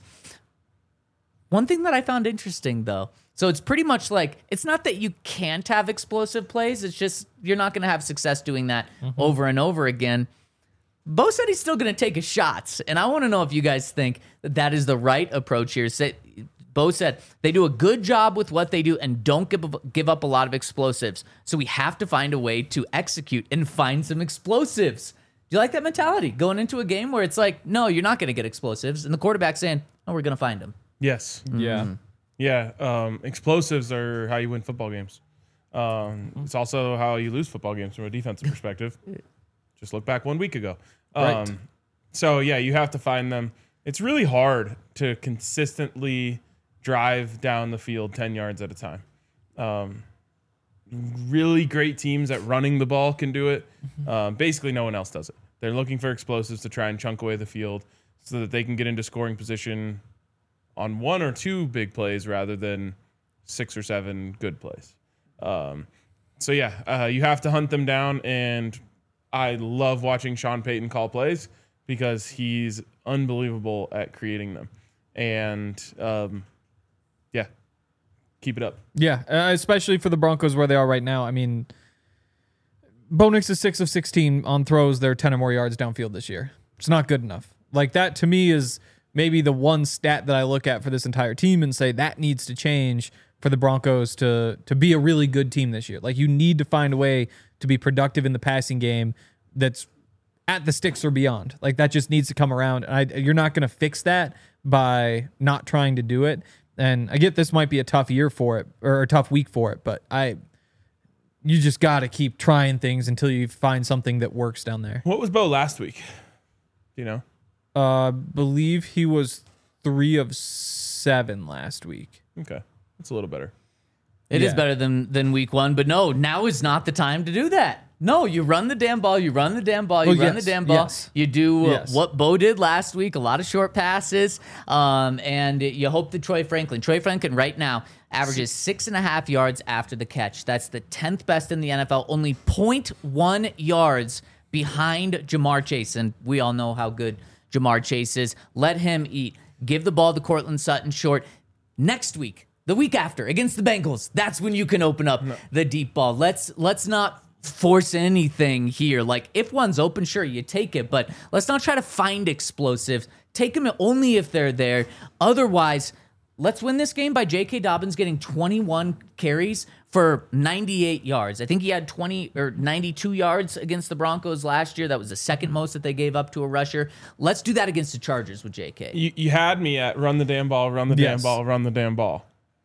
One thing that I found interesting, though, so it's pretty much like, it's not that you can't have explosive plays. It's just you're not going to have success doing that mm-hmm. over and over again. Bo said he's still going to take his shots. And I want to know if you guys think that that is the right approach here. Bo said they do a good job with what they do and don't give, give up a lot of explosives. So we have to find a way to execute and find some explosives. Do you like that mentality? Going into a game where it's like, no, you're not going to get explosives. And the quarterback saying, oh, we're going to find them. Yes. Yeah. Mm-hmm. Yeah, um, explosives are how you win football games. Um, it's also how you lose football games from a defensive perspective. Just look back one week ago. Um, Right. So, yeah, you have to find them. It's really hard to consistently drive down the field ten yards at a time. Um, really great teams at running the ball can do it. Um, basically, no one else does it. They're looking for explosives to try and chunk away the field so that they can get into scoring position on one or two big plays rather than six or seven good plays. Um, so, yeah, uh, you have to hunt them down, and I love watching Sean Payton call plays because he's unbelievable at creating them. And, um, yeah, keep it up. Yeah, uh, especially for the Broncos where they are right now. I mean, Bo Nix is six of sixteen on throws. They're ten or more yards downfield this year. It's not good enough. Like, that to me is maybe the one stat that I look at for this entire team and say that needs to change for the Broncos to to be a really good team this year. Like, you need to find a way to be productive in the passing game that's at the sticks or beyond. Like, that just needs to come around. And I, you're not going to fix that by not trying to do it. And I get this might be a tough year for it or a tough week for it, but I you just got to keep trying things until you find something that works down there. What was Bo last week? Do you know? Uh, believe he was three of seven last week. Okay. That's a little better. It is Yeah. better than than week one, but no, now is not the time to do that. No, you run the damn ball, you run the damn ball, you Oh, run yes, the damn ball. yes. You do uh, Yes. what Bo did last week, a lot of short passes, um, and you hope that Troy Franklin, Troy Franklin right now averages six and a half yards after the catch. That's the tenth best in the N F L, only zero point one yards behind Jamar Chase, and we all know how good Jamar Chase is. Let him eat. Give the ball to Cortland Sutton short. Next week, the week after, against the Bengals, that's when you can open up no. the deep ball. Let's let's not force anything here. Like, if one's open, sure, you take it, but let's not try to find explosives. Take them only if they're there. Otherwise, let's win this game by J K. Dobbins getting twenty-one carries for ninety-eight yards. I think he had twenty or ninety-two yards against the Broncos last year. That was the second most that they gave up to a rusher. Let's do that against the Chargers with J K. You, you had me at run the damn ball, run the Yes. damn ball, run the damn ball.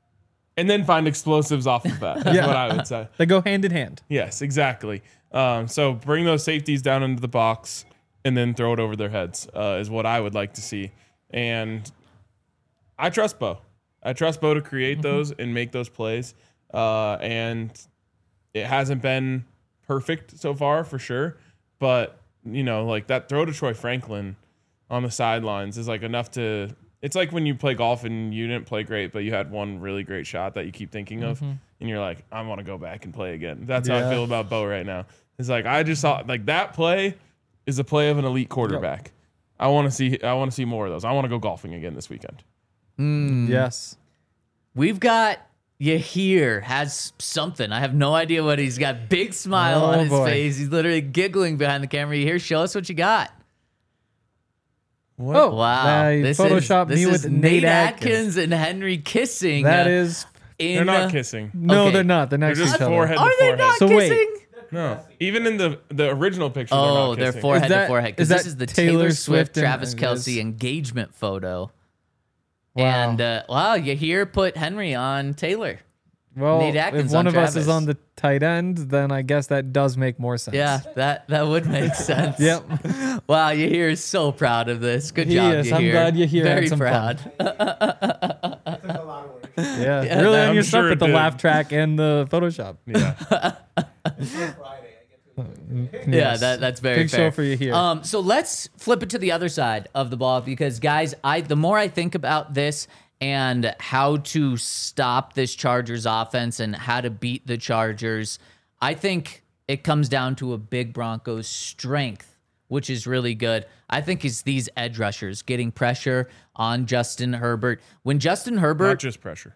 and then find explosives off of that. That's Yeah. what I would say. They go hand in hand. Yes, exactly. Um, so bring those safeties down into the box and then throw it over their heads uh, is what I would like to see. And I trust Bo. I trust Bo to create mm-hmm. those and make those plays. Uh, and it hasn't been perfect so far for sure. But, you know, like that throw to Troy Franklin on the sidelines is like enough to – it's like when you play golf and you didn't play great, but you had one really great shot that you keep thinking of. Mm-hmm. And you're like, I want to go back and play again. That's Yeah. how I feel about Bo right now. It's like I just saw like that play is a play of an elite quarterback. Yep. I want to see I want to see more of those. I want to go golfing again this weekend. Mm. Yes. We've got Yahir has something. I have no idea what he's got. Big smile Oh, on his boy. face. He's literally giggling behind the camera. Yahir, show us what you got. What? Oh, Wow. They this photoshopped is, me this with is Nate Atkins. Atkins. and Henry kissing. That uh, is in, They're not uh, kissing. no, Okay. they're not. They're They're next to just each other. forehead Are to they forehead. not So wait. kissing? No, even in the the original picture. Oh, they're, not they're kissing. forehead Is that- to forehead. Because is this that is the Taylor Taylor, Swift Swift, and- Travis it Kelce is. engagement photo. Wow. And uh, wow, Yahir put Henry on Taylor. Well, Nate Atkins if one on of us Travis. is on the tight end, then I guess that does make more sense. Yeah, that, that would make sense. Yep. Wow, Yahir is so proud of this. Good He job, is. Yahir. I'm glad Yahir had Very some proud. Yeah. Yeah, really that- on I'm your sure stuff it with the did. laugh track and the Photoshop. Yeah. Yeah, that, that's very Big fair. show for Yahir. Um, so let's flip it to the other side of the ball because, guys, I the more I think about this and how to stop this Chargers offense and how to beat the Chargers, I think it comes down to a big Broncos strength, which is really good. I think it's these edge rushers getting pressure on Justin Herbert. When Justin Not Herbert just pressure.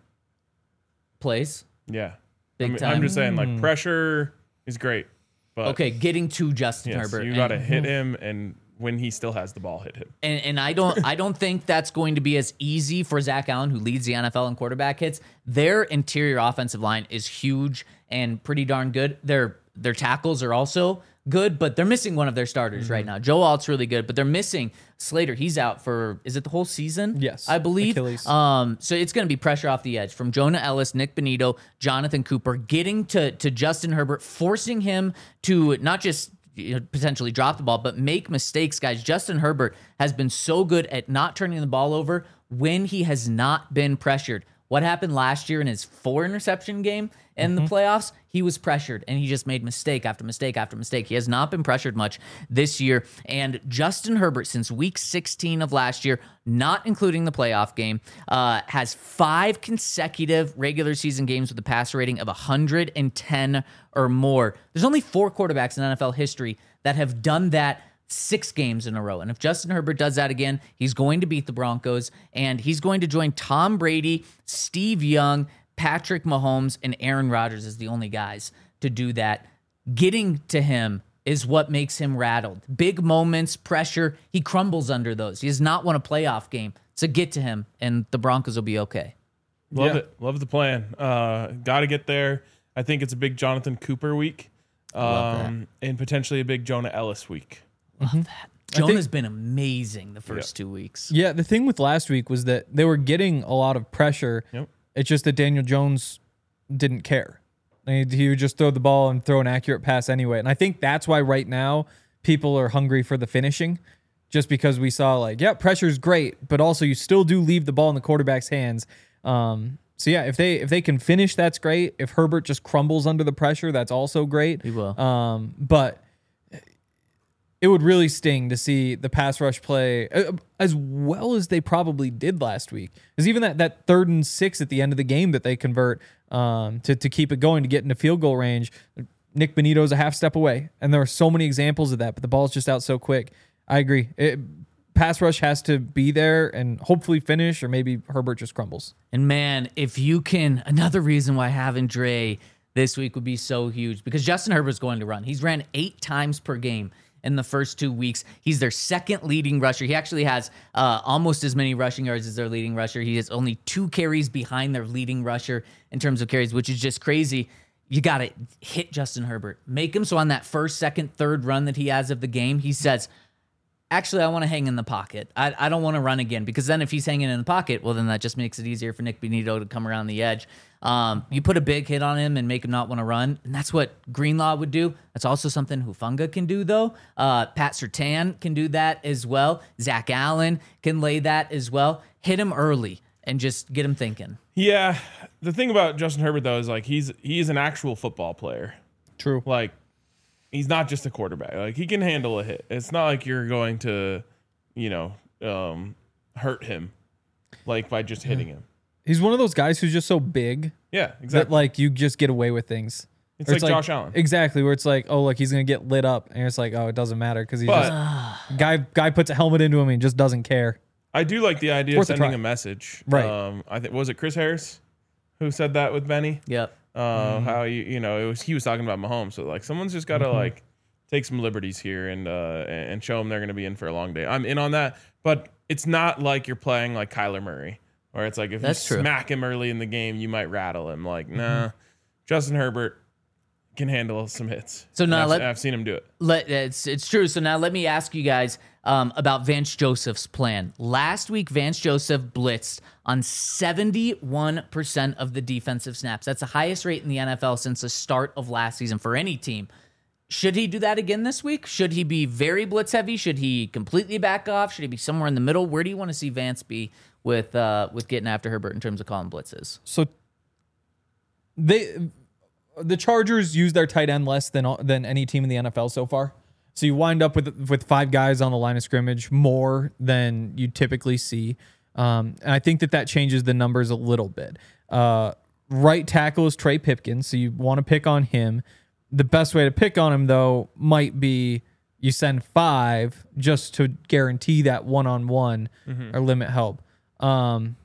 plays, Yeah. Big I mean, time. I'm just saying, like pressure is great, but okay, getting to Justin yes, Herbert. you And- got to hit him, and when he still has the ball, hit him. And, and I don't I don't think that's going to be as easy for Zach Allen, who leads the N F L in quarterback hits. Their interior offensive line is huge and pretty darn good. Their their tackles are also good, but they're missing one of their starters Mm-hmm. right now. Joe Alt's really good, but they're missing Slater. He's out for is it the whole season? Yes, I believe. Achilles. Um, so it's going to be pressure off the edge from Jonah Ellis, Nick Benito, Jonathan Cooper, getting to to Justin Herbert, forcing him to not just you know, potentially drop the ball, but make mistakes, guys. Justin Herbert has been so good at not turning the ball over when he has not been pressured. What happened last year in his four interception game in the playoffs? He was pressured and he just made mistake after mistake after mistake. He has not been pressured much this year. And Justin Herbert, since week sixteen of last year, not including the playoff game, uh, has five consecutive regular season games with a passer rating of one hundred ten or more. There's only four quarterbacks in N F L history that have done that six games in a row. And if Justin Herbert does that again, he's going to beat the Broncos and he's going to join Tom Brady, Steve Young, Patrick Mahomes, and Aaron Rodgers as the only guys to do that. Getting to him is what makes him rattled. Big moments, pressure, he crumbles under those. He has not won a playoff game. So get to him and the Broncos will be okay. Love Yeah. it. Love the plan. Uh, got to get there. I think it's a big Jonathan Cooper week, um, and potentially a big Jonah Ellis week. Jonah's been amazing the first two weeks. Yeah, the thing with last week was that they were getting a lot of pressure. Yep. It's just that Daniel Jones didn't care. He, he would just throw the ball and throw an accurate pass anyway. And I think that's why right now people are hungry for the finishing, just because we saw like, yeah, pressure's great, but also you still do leave the ball in the quarterback's hands. Um, so yeah, if they if they can finish, that's great. If Herbert just crumbles under the pressure, that's also great. He will. Um, but it would really sting to see the pass rush play uh, as well as they probably did last week. Because even that, that third and six at the end of the game that they convert um, to, to keep it going, to get into field goal range, Nick Benito's a half step away. And there are so many examples of that, but the ball's just out so quick. I agree. It, pass rush has to be there and hopefully finish, or maybe Herbert just crumbles. And man, if you can, another reason why having Dre this week would be so huge because Justin Herbert's going to run. He's ran eight times per game in the first two weeks. He's their second leading rusher. He actually has uh, almost as many rushing yards as their leading rusher. He has only two carries behind their leading rusher in terms of carries, which is just crazy. You got to hit Justin Herbert. Make him so on that first, second, third run that he has of the game, he says, actually, I want to hang in the pocket. I, I don't want to run again, because then if he's hanging in the pocket, well, then that just makes it easier for Nick Bonito to come around the edge. Um, you put a big hit on him and make him not want to run, and that's what Greenlaw would do. That's also something Hufanga can do, though. Uh, Pat Surtain can do that as well. Zach Allen can lay that as well. Hit him early and just get him thinking. Yeah, the thing about Justin Herbert, though, is like he's he's an actual football player. True. Like, he's not just a quarterback. Like, he can handle a hit. It's not like you're going to, you know, um, hurt him, like, by just hitting him. He's one of those guys who's just so big Yeah, that, exactly. like, you just get away with things. It's Or like Josh Allen. Exactly, where it's like, oh, look, he's going to get lit up. And it's like, oh, it doesn't matter because he's But just... Guy, guy puts a helmet into him and he just doesn't care. I do like the idea Worth a of sending try. a message. Right. Um, I think was it Chris Harris who said that with Benny? Yep. Uh, Mm-hmm. How you you know it was he was talking about Mahomes. So like someone's just got to Mm-hmm. like take some liberties here and uh, and show them they're going to be in for a long day. I'm in on that, but it's not like you're playing like Kyler Murray, where it's like if That's you true. smack him early in the game, you might rattle him. Like nah, Justin Herbert can handle some hits. So now And I've, let- I've seen him do it. Let, it's it's true. So now let me ask you guys um, about Vance Joseph's plan. Last week, Vance Joseph blitzed on seventy-one percent of the defensive snaps. That's the highest rate in the N F L since the start of last season for any team. Should he do that again this week? Should he be very blitz heavy? Should he completely back off? Should he be somewhere in the middle? Where do you want to see Vance be with uh, with getting after Herbert in terms of calling blitzes? So they, the Chargers use their tight end less than than any team in the N F L so far. So you wind up with with five guys on the line of scrimmage, more than you typically see. Um, and I think that that changes the numbers a little bit. Uh, right tackle is Trey Pipkins, so you want to pick on him. The best way to pick on him, though, might be you send five just to guarantee that one-on-one or limit help. Um,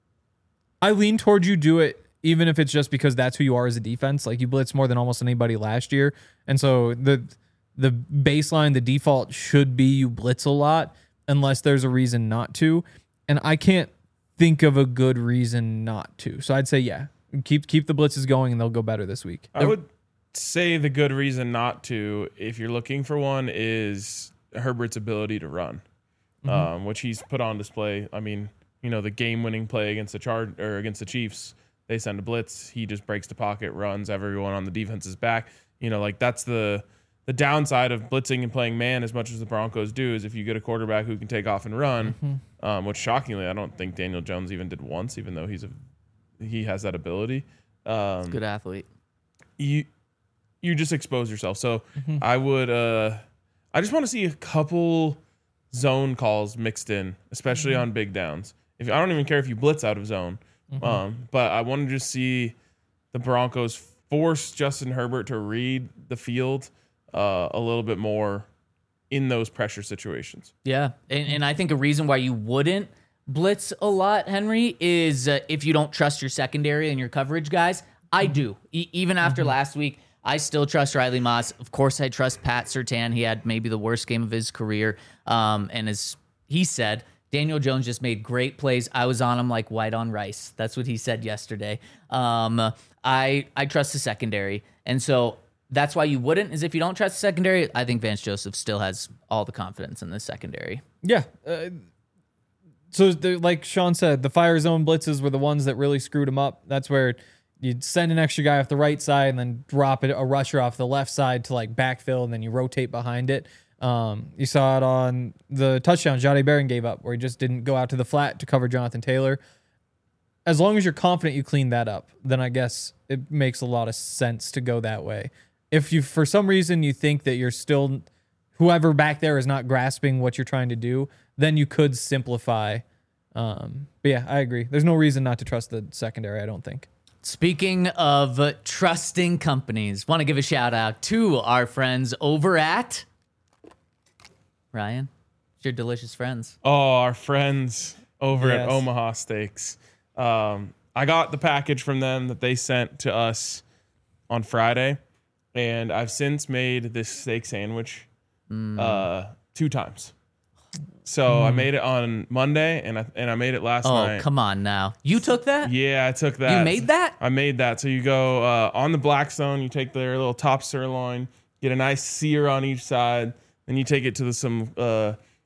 I lean towards you do it even if it's just because that's who you are as a defense. Like, you blitz more than almost anybody last year. And so the the baseline, the default should be you blitz a lot unless there's a reason not to. And I can't think of a good reason not to. So I'd say, yeah, keep keep the blitzes going and they'll go better this week. I would say the good reason not to, if you're looking for one, is Herbert's ability to run, Mm-hmm. um, which he's put on display. I mean, you know, the game-winning play against the Char- or against the Chiefs, they send a blitz, he just breaks the pocket, runs, everyone on the defense's back. You know, like that's the the downside of blitzing and playing man as much as the Broncos do is if you get a quarterback who can take off and run, Mm-hmm. um, which shockingly I don't think Daniel Jones even did once, even though he's a he has that ability. Um, Good athlete. you you just expose yourself. So Mm-hmm. I would uh I just want to see a couple zone calls mixed in, especially Mm-hmm. on big downs. If I don't even care if you blitz out of zone. Mm-hmm. Um but I want to just see the Broncos force Justin Herbert to read the field uh a little bit more in those pressure situations. Yeah, and, and I think a reason why you wouldn't blitz a lot, Henry, is uh, if you don't trust your secondary and your coverage guys. I do. E- even after last week, I still trust Riley Moss. Of course, I trust Pat Surtain. He had maybe the worst game of his career. Um, and as he said, Daniel Jones just made great plays. I was on him like white on rice. That's what he said yesterday. Um, I I trust the secondary. And so that's why you wouldn't, is if you don't trust the secondary. I think Vance Joseph still has all the confidence in the secondary. Yeah. Uh, so, the, like Sean said, the fire zone blitzes were the ones that really screwed him up. That's where you'd send an extra guy off the right side and then drop it, a rusher off the left side to like backfill, and then you rotate behind it. Um, you saw it on the touchdown Jahdae Barron gave up, where he just didn't go out to the flat to cover Jonathan Taylor. As long as you're confident you clean that up, then I guess it makes a lot of sense to go that way. If you, for some reason, you think that you're still, whoever back there is not grasping what you're trying to do, then you could simplify. Um, but yeah, I agree. There's no reason not to trust the secondary, I don't think. Speaking of uh, trusting companies, want to give a shout out to our friends over at Ryan. It's your delicious friends. Oh, our friends over at Yes. Omaha Steaks. Um, I got the package from them that they sent to us on Friday, and I've since made this steak sandwich uh, two times. So I made it on Monday, and I and I made it last Oh, night. come on now. You took that? Yeah, I took that. You made that? I made that. So you go uh, on the Blackstone, you take their little top sirloin, get a nice sear on each side, then you take it to the, some uh,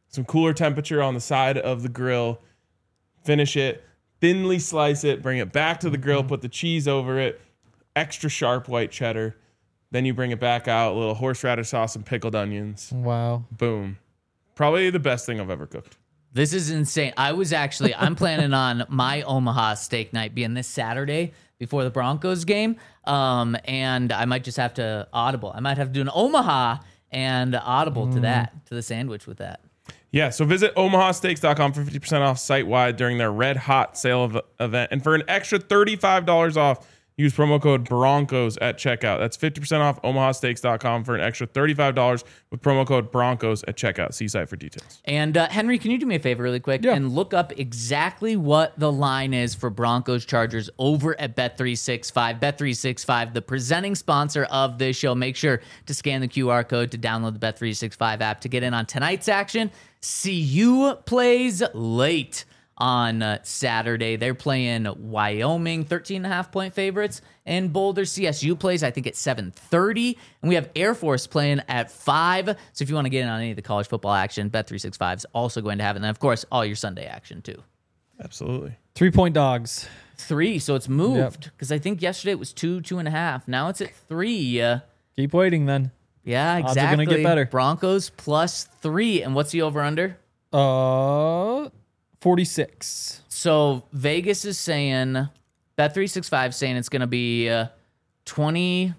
some cooler temperature on the side of the grill, finish it, thinly slice it, bring it back to the grill, put the cheese over it, extra sharp white cheddar. Then you bring it back out, a little horseradish sauce and pickled onions. Wow. Boom. Probably the best thing I've ever cooked. This is insane. I was actually, I'm planning on my Omaha steak night being this Saturday before the Broncos game. Um, and I might just have to audible. I might have to do an Omaha and audible mm. to that, to the sandwich with that. Yeah, so visit omaha steaks dot com for fifty percent off site-wide during their Red Hot sale of, event. And for an extra thirty-five dollars off, use promo code Broncos at checkout. That's fifty percent off omaha steaks dot com for an extra thirty-five dollars with promo code Broncos at checkout. See site for details. And uh, Henry, can you do me a favor really quick yeah. and look up exactly what the line is for Broncos Chargers over at Bet three sixty-five. Bet three sixty-five, the presenting sponsor of this show. Make sure to scan the Q R code to download the Bet three sixty-five app to get in on tonight's action. C U plays late on uh, Saturday. They're playing Wyoming, thirteen and a half point favorites. And Boulder C S U plays, I think, at seven thirty. And we have Air Force playing at five. So if you want to get in on any of the college football action, Bet three sixty-five is also going to have it. And then, of course, all your Sunday action, too. Absolutely. Three-point dogs. Three, so it's moved. Because yep. I think yesterday it was two, two and a half. Now it's at three. Uh, Keep waiting, then. Yeah, exactly. Odds are going to get better. Broncos plus three. And what's the over-under? Uh, forty-six. So Vegas is saying, Bet three sixty-five saying it's going to be uh, twenty-five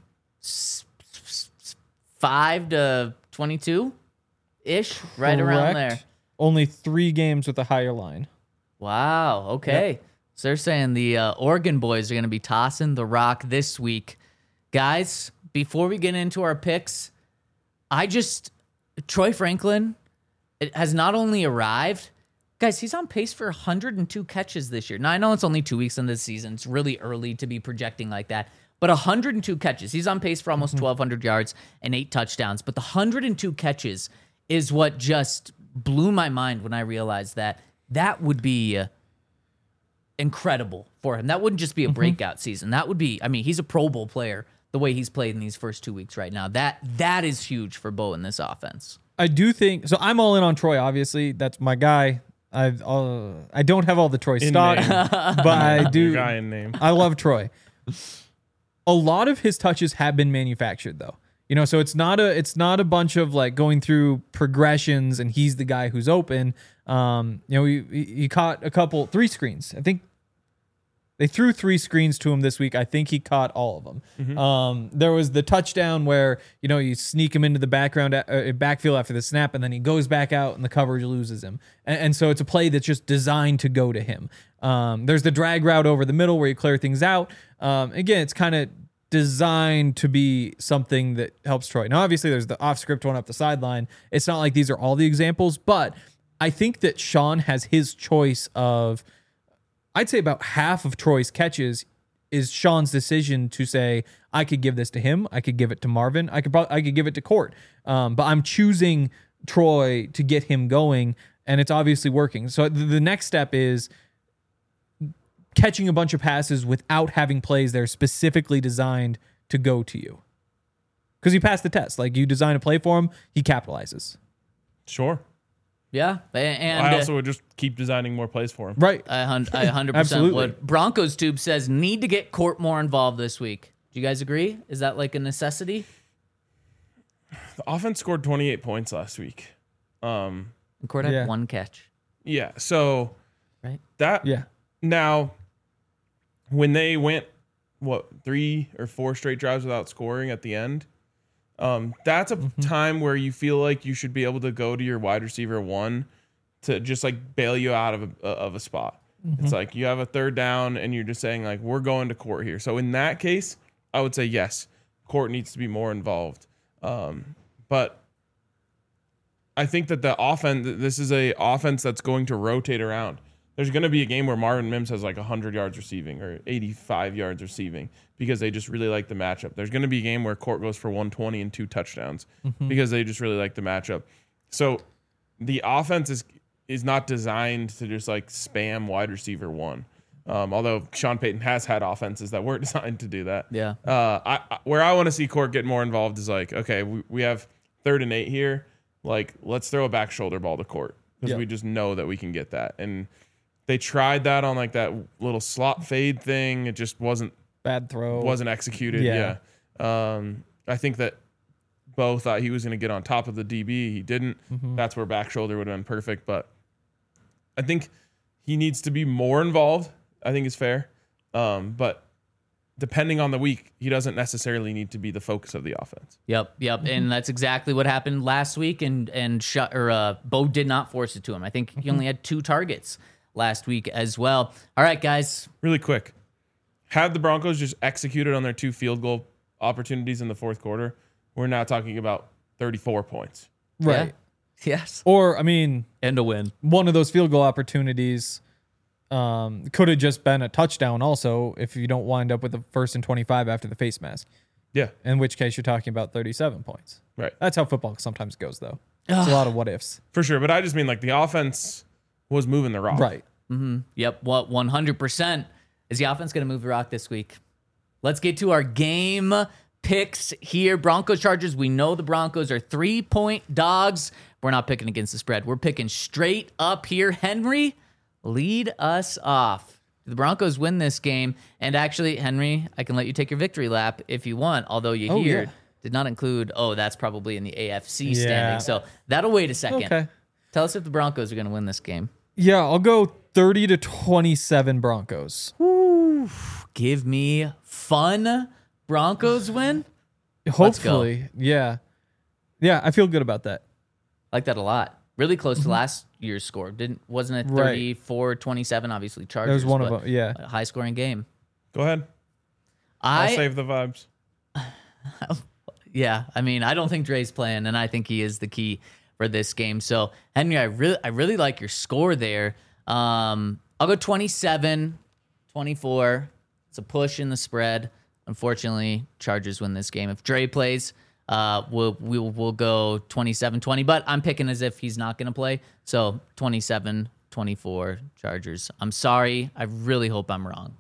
to twenty-two-ish, right Correct. around there. Only three games with a higher line. Wow, okay. Yep. So they're saying the uh, Oregon boys are going to be tossing the rock this week. Guys, before we get into our picks, I just, Troy Franklin it has not only arrived, guys, he's on pace for one hundred two catches this year. Now, I know it's only two weeks into the season. It's really early to be projecting like that. But one hundred two catches. He's on pace for almost twelve hundred yards and eight touchdowns. But the one hundred two catches is what just blew my mind when I realized that that would be uh, incredible for him. That wouldn't just be a breakout mm-hmm. season. That would be, I mean, he's a Pro Bowl player the way he's played in these first two weeks right now. That That is huge for Bo in this offense. I do think, so I'm all in on Troy, obviously. That's my guy. I've uh, I don't have all the Troy In stock, name. but I do. Your guy in name. I love Troy. A lot of his touches have been manufactured, though. You know, so it's not a it's not a bunch of like going through progressions and he's the guy who's open. Um, you know, he he caught a couple three screens. I think they threw three screens to him this week. I think he caught all of them. Mm-hmm. Um, there was the touchdown where, you know, you sneak him into the background uh, backfield after the snap, and then he goes back out and the coverage loses him. And, and so it's a play that's just designed to go to him. Um, there's the drag route over the middle where you clear things out. Um, again, it's kind of designed to be something that helps Troy. Now, obviously, there's the off-script one up the sideline. It's not like these are all the examples, but I think that Sean has his choice of, I'd say about half of Troy's catches is Sean's decision to say, I could give this to him. I could give it to Marvin. I could probably, I could give it to Court. Um, but I'm choosing Troy to get him going, and it's obviously working. So the next step is catching a bunch of passes without having plays that are specifically designed to go to you. Because he passed the test. Like, you design a play for him, he capitalizes. Sure. Yeah, and I also would just keep designing more plays for him. Right. I one hundred percent would. Broncos Tube says need to get Court more involved this week. Do you guys agree? Is that like a necessity? The offense scored twenty-eight points last week. Um, and Court had yeah. one catch. Yeah. So right. That yeah. Now, when they went what three or four straight drives without scoring at the end. Um, that's a mm-hmm. time where you feel like you should be able to go to your wide receiver one to just like bail you out of a, of a spot. Mm-hmm. It's like you have a third down and you're just saying like, we're going to Court here. So in that case, I would say yes, Court needs to be more involved. Um, but I think that the offense, this is a offense that's going to rotate around. There's going to be a game where Marvin Mims has like one hundred yards receiving or eighty-five yards receiving because they just really like the matchup. There's going to be a game where Court goes for one twenty and two touchdowns mm-hmm. because they just really like the matchup. So the offense is is not designed to just like spam wide receiver one. Um, although Sean Payton has had offenses that were designed to do that. Yeah. Uh, I, I where I want to see Court get more involved is like, okay, we, we have third and eight here. Like, let's throw a back shoulder ball to Court. because Yep. we just know that we can get that. And they tried that on like that little slot fade thing. It just wasn't Bad throw. wasn't executed. Yeah. Yeah. Um, I think that Bo thought he was going to get on top of the D B. He didn't. Mm-hmm. That's where back shoulder would have been perfect. But I think he needs to be more involved. I think is fair. Um, but depending on the week, he doesn't necessarily need to be the focus of the offense. Yep, yep, and that's exactly what happened last week. And and sh- or uh, Bo did not force it to him. I think he only had two targets last week as well. All right, guys. Really quick, had the Broncos just executed on their two field goal opportunities in the fourth quarter, we're now talking about thirty-four points. right. Yeah. Yes. Or, I mean, And a win. one of those field goal opportunities um, could have just been a touchdown also if you don't wind up with a first and twenty-five after the face mask, Yeah, in which case you're talking about thirty-seven points. right. That's how football sometimes goes, though. It's a lot of what ifs. For sure. But I just mean like the offense was moving the rock. Right. Yep. What one hundred percent is the offense going to move the rock this week? Let's get to our game picks here. Broncos Chargers. We know the Broncos are three point dogs. We're not picking against the spread. We're picking straight up here. Henry, lead us off. The Broncos win this game. And actually, Henry, I can let you take your victory lap if you want, although you Oh, here yeah. did not include, oh, that's probably in the A F C Yeah. standing. So that'll wait a second. Okay. Tell us if the Broncos are going to win this game. Yeah, I'll go thirty to twenty-seven Broncos. Give me fun Broncos win. Hopefully. Yeah. Yeah, I feel good about that. I like that a lot. Really close to last year's score. Didn't wasn't it Mm-hmm. Right. thirty-four twenty-seven? Obviously, Chargers. That was one of but them. Yeah. a high scoring game. Go ahead. I'll I save the vibes. yeah. I mean, I don't think Dre's playing, and I think he is the key for this game. So Henry, I really I really like your score there. Um, I'll go twenty-seven twenty-four. It's a push in the spread. Unfortunately, Chargers win this game. If Dre plays, uh, we'll we'll we'll go twenty-seven twenty. But I'm picking as if he's not going to play. So twenty-seven twenty-four Chargers. I'm sorry. I really hope I'm wrong.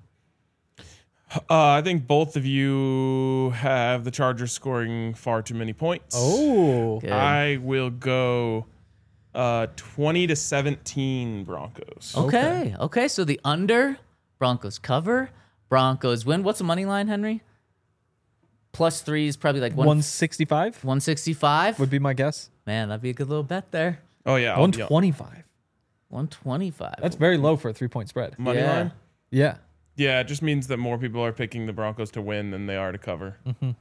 Uh, I think both of you have the Chargers scoring far too many points. Oh. Good. I will go uh, twenty to seventeen Broncos. Okay. Okay. So the under, Broncos cover, Broncos win. What's the money line, Henry? Plus three is probably like one, one sixty-five one sixty-five. would be my guess. Man, that'd be a good little bet there. Oh, yeah. I'll- one yeah. twenty-five. one twenty-five. That's very low for a three-point spread. Money Yeah. line? Yeah. Yeah, it just means that more people are picking the Broncos to win than they are to cover.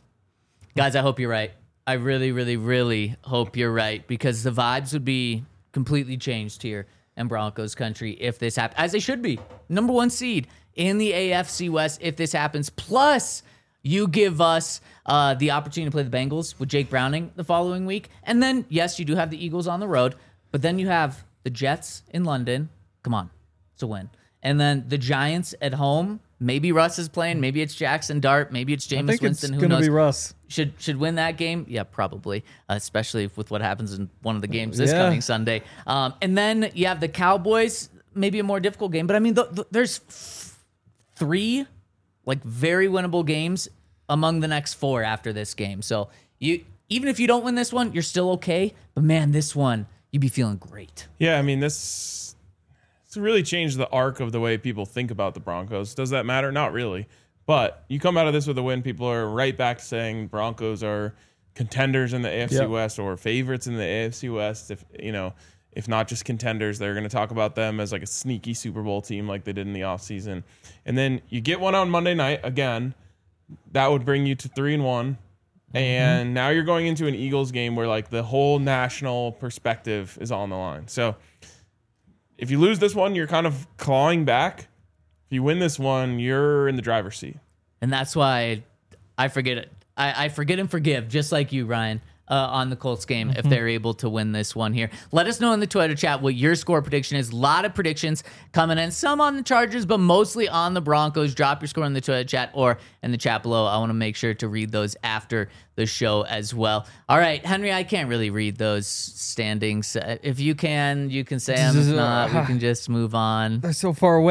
Guys, I hope you're right. I really, really, really hope you're right because the vibes would be completely changed here in Broncos country if this happens, as they should be. Number one seed in the A F C West if this happens. Plus, you give us uh, the opportunity to play the Bengals with Jake Browning the following week. And then, yes, you do have the Eagles on the road, but then you have the Jets in London. Come on, it's a win. And then the Giants at home. Maybe Russ is playing. Maybe it's Jackson Dart. Maybe it's I Jameis think Winston. it's Who going to knows? be Russ. Should should win that game? Yeah, probably. Uh, especially with what happens in one of the games this Yeah. coming Sunday. Um, and then you have the Cowboys. Maybe a more difficult game, but I mean, th- th- there's f- three like very winnable games among the next four after this game. So you even if you don't win this one, you're still okay. But man, this one you'd be feeling great. Yeah, I mean, this it's really changed the arc of the way people think about the Broncos. Does that matter? Not really. But you come out of this with a win, people are right back to saying Broncos are contenders in the A F C Yep. West or favorites in the A F C West. If you know, if not just contenders, they're going to talk about them as like a sneaky Super Bowl team like they did in the offseason. And then you get one on Monday night again. That would bring you to three and one. And now you're going into an Eagles game where like the whole national perspective is on the line. So if you lose this one, you're kind of clawing back. If you win this one, you're in the driver's seat. And that's why I forget it. I, I forget and forgive, just like you, Ryan, uh, on the Colts game if they're able to win this one here. Let us know in the Twitter chat what your score prediction is. A lot of predictions coming in, some on the Chargers, but mostly on the Broncos. Drop your score in the Twitter chat or in the chat below. I want to make sure to read those after the show as well. All right, Henry, I can't really read those standings. Uh, If you can, you can say them. If not, we can just move on. They're so far away.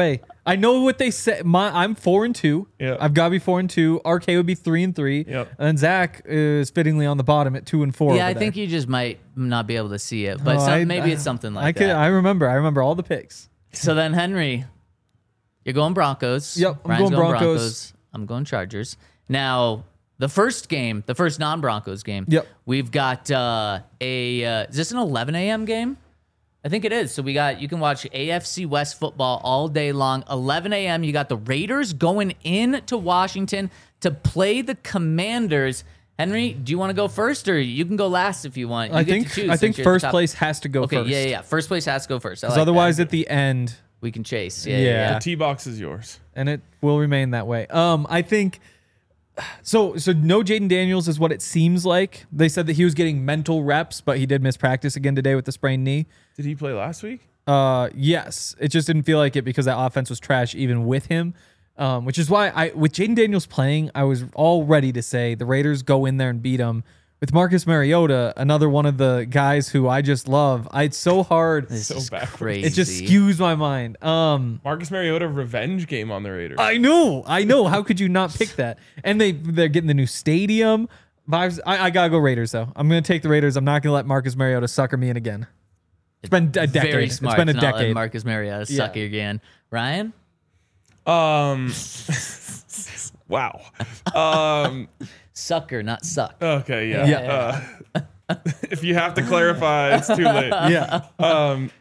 I know what they said. My, I'm four and two. Yeah. I've got to be four and two. R K would be three and three. Yep. And then Zach is fittingly on the bottom at two and four. Yeah, over I there. think you just might not be able to see it, but Oh, some, I- maybe it's I- something like I could. that. I remember. I remember all the picks. So then, Henry, you're going Broncos. Yep, I'm Ryan's going Broncos. I'm going Chargers. Now, the first game, the first non-Broncos game. Yep. We've got uh, a. Uh, is this an eleven a.m. game? I think it is. So we got. You can watch A F C West football all day long. eleven a.m. You got the Raiders going in to Washington to play the Commanders. Henry, do you want to go first, or you can go last if you want? You I get think. to choose I since think you're at the first top. place has to go Okay, first. yeah, yeah, yeah. First place has to go first. I Because like otherwise, that. at the end, we can chase. Yeah, yeah. Yeah. yeah. The tee box is yours. and it will remain that way. Um, I think. So, so no Jaden Daniels is what it seems like. They said that he was getting mental reps, but he did miss practice again today with the sprained knee. Did he play last week? Uh, yes, it just didn't feel like it because that offense was trash even with him. Um, which is why I, with Jaden Daniels playing, I was all ready to say the Raiders go in there and beat them. With Marcus Mariota, another one of the guys who I just love, I, it's so hard. This So is backwards. crazy. It just skews my mind. Um, Marcus Mariota revenge game on the Raiders. I know, I know. How could you not pick that? And they they're getting the new stadium vibes. I, I gotta go Raiders though. I'm gonna take the Raiders. I'm not gonna let Marcus Mariota sucker me in again. It's been a decade. Very smart. It's been a to not let decade. Marcus Mariota Yeah. suck you again. Ryan? Um. wow. Um. Sucker, not suck. Okay. Yeah. Yeah. Uh, if you have to clarify, it's too late. Yeah. Um.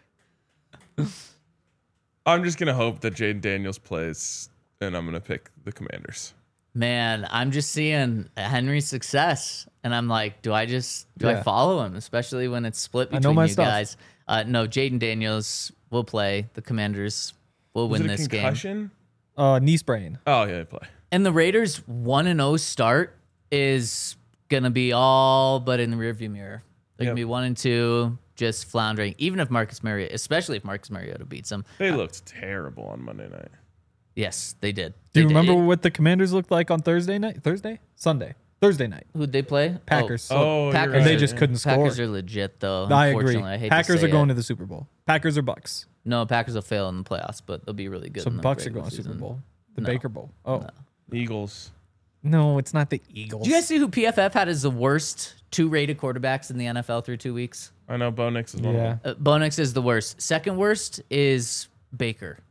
I'm just gonna hope that Jaden Daniels plays, and I'm gonna pick the Commanders. Man, I'm just seeing Henry's success, and I'm like, do I just do I Yeah. follow him, especially when it's split I know between my you stuff. guys? Uh, no, Jaden Daniels will play. The Commanders will Was win it a this game. concussion? Uh, knee sprain. Oh yeah, they play. And the Raiders' one and zero start is gonna be all but in the rearview mirror. They're Yep. gonna be one and two, just floundering. Even if Marcus Mariota, especially if Marcus Mariota beats them. They looked terrible on Monday night. Yes, they did. Do They you did. remember what the Commanders looked like on Thursday night? Thursday? Sunday? Thursday night. Who'd they play? Packers. Oh, Oh, you're Packers. right. They just yeah. couldn't score. Packers are legit though. I agree. Unfortunately, I hate Packers to say are going it. to the Super Bowl. Packers or Bucks. No, Packers will fail in the playoffs, but they'll be really good. So in the Bucks are regular going to Super season. Bowl. The No. Baker Bowl. Oh Eagles. no, it's not the Eagles. Do you guys see who P F F had as the worst two rated quarterbacks in the N F L through two weeks? I know Bo Nix is one Yeah. of them. Uh, Bo Nix is the worst. Second worst is Baker.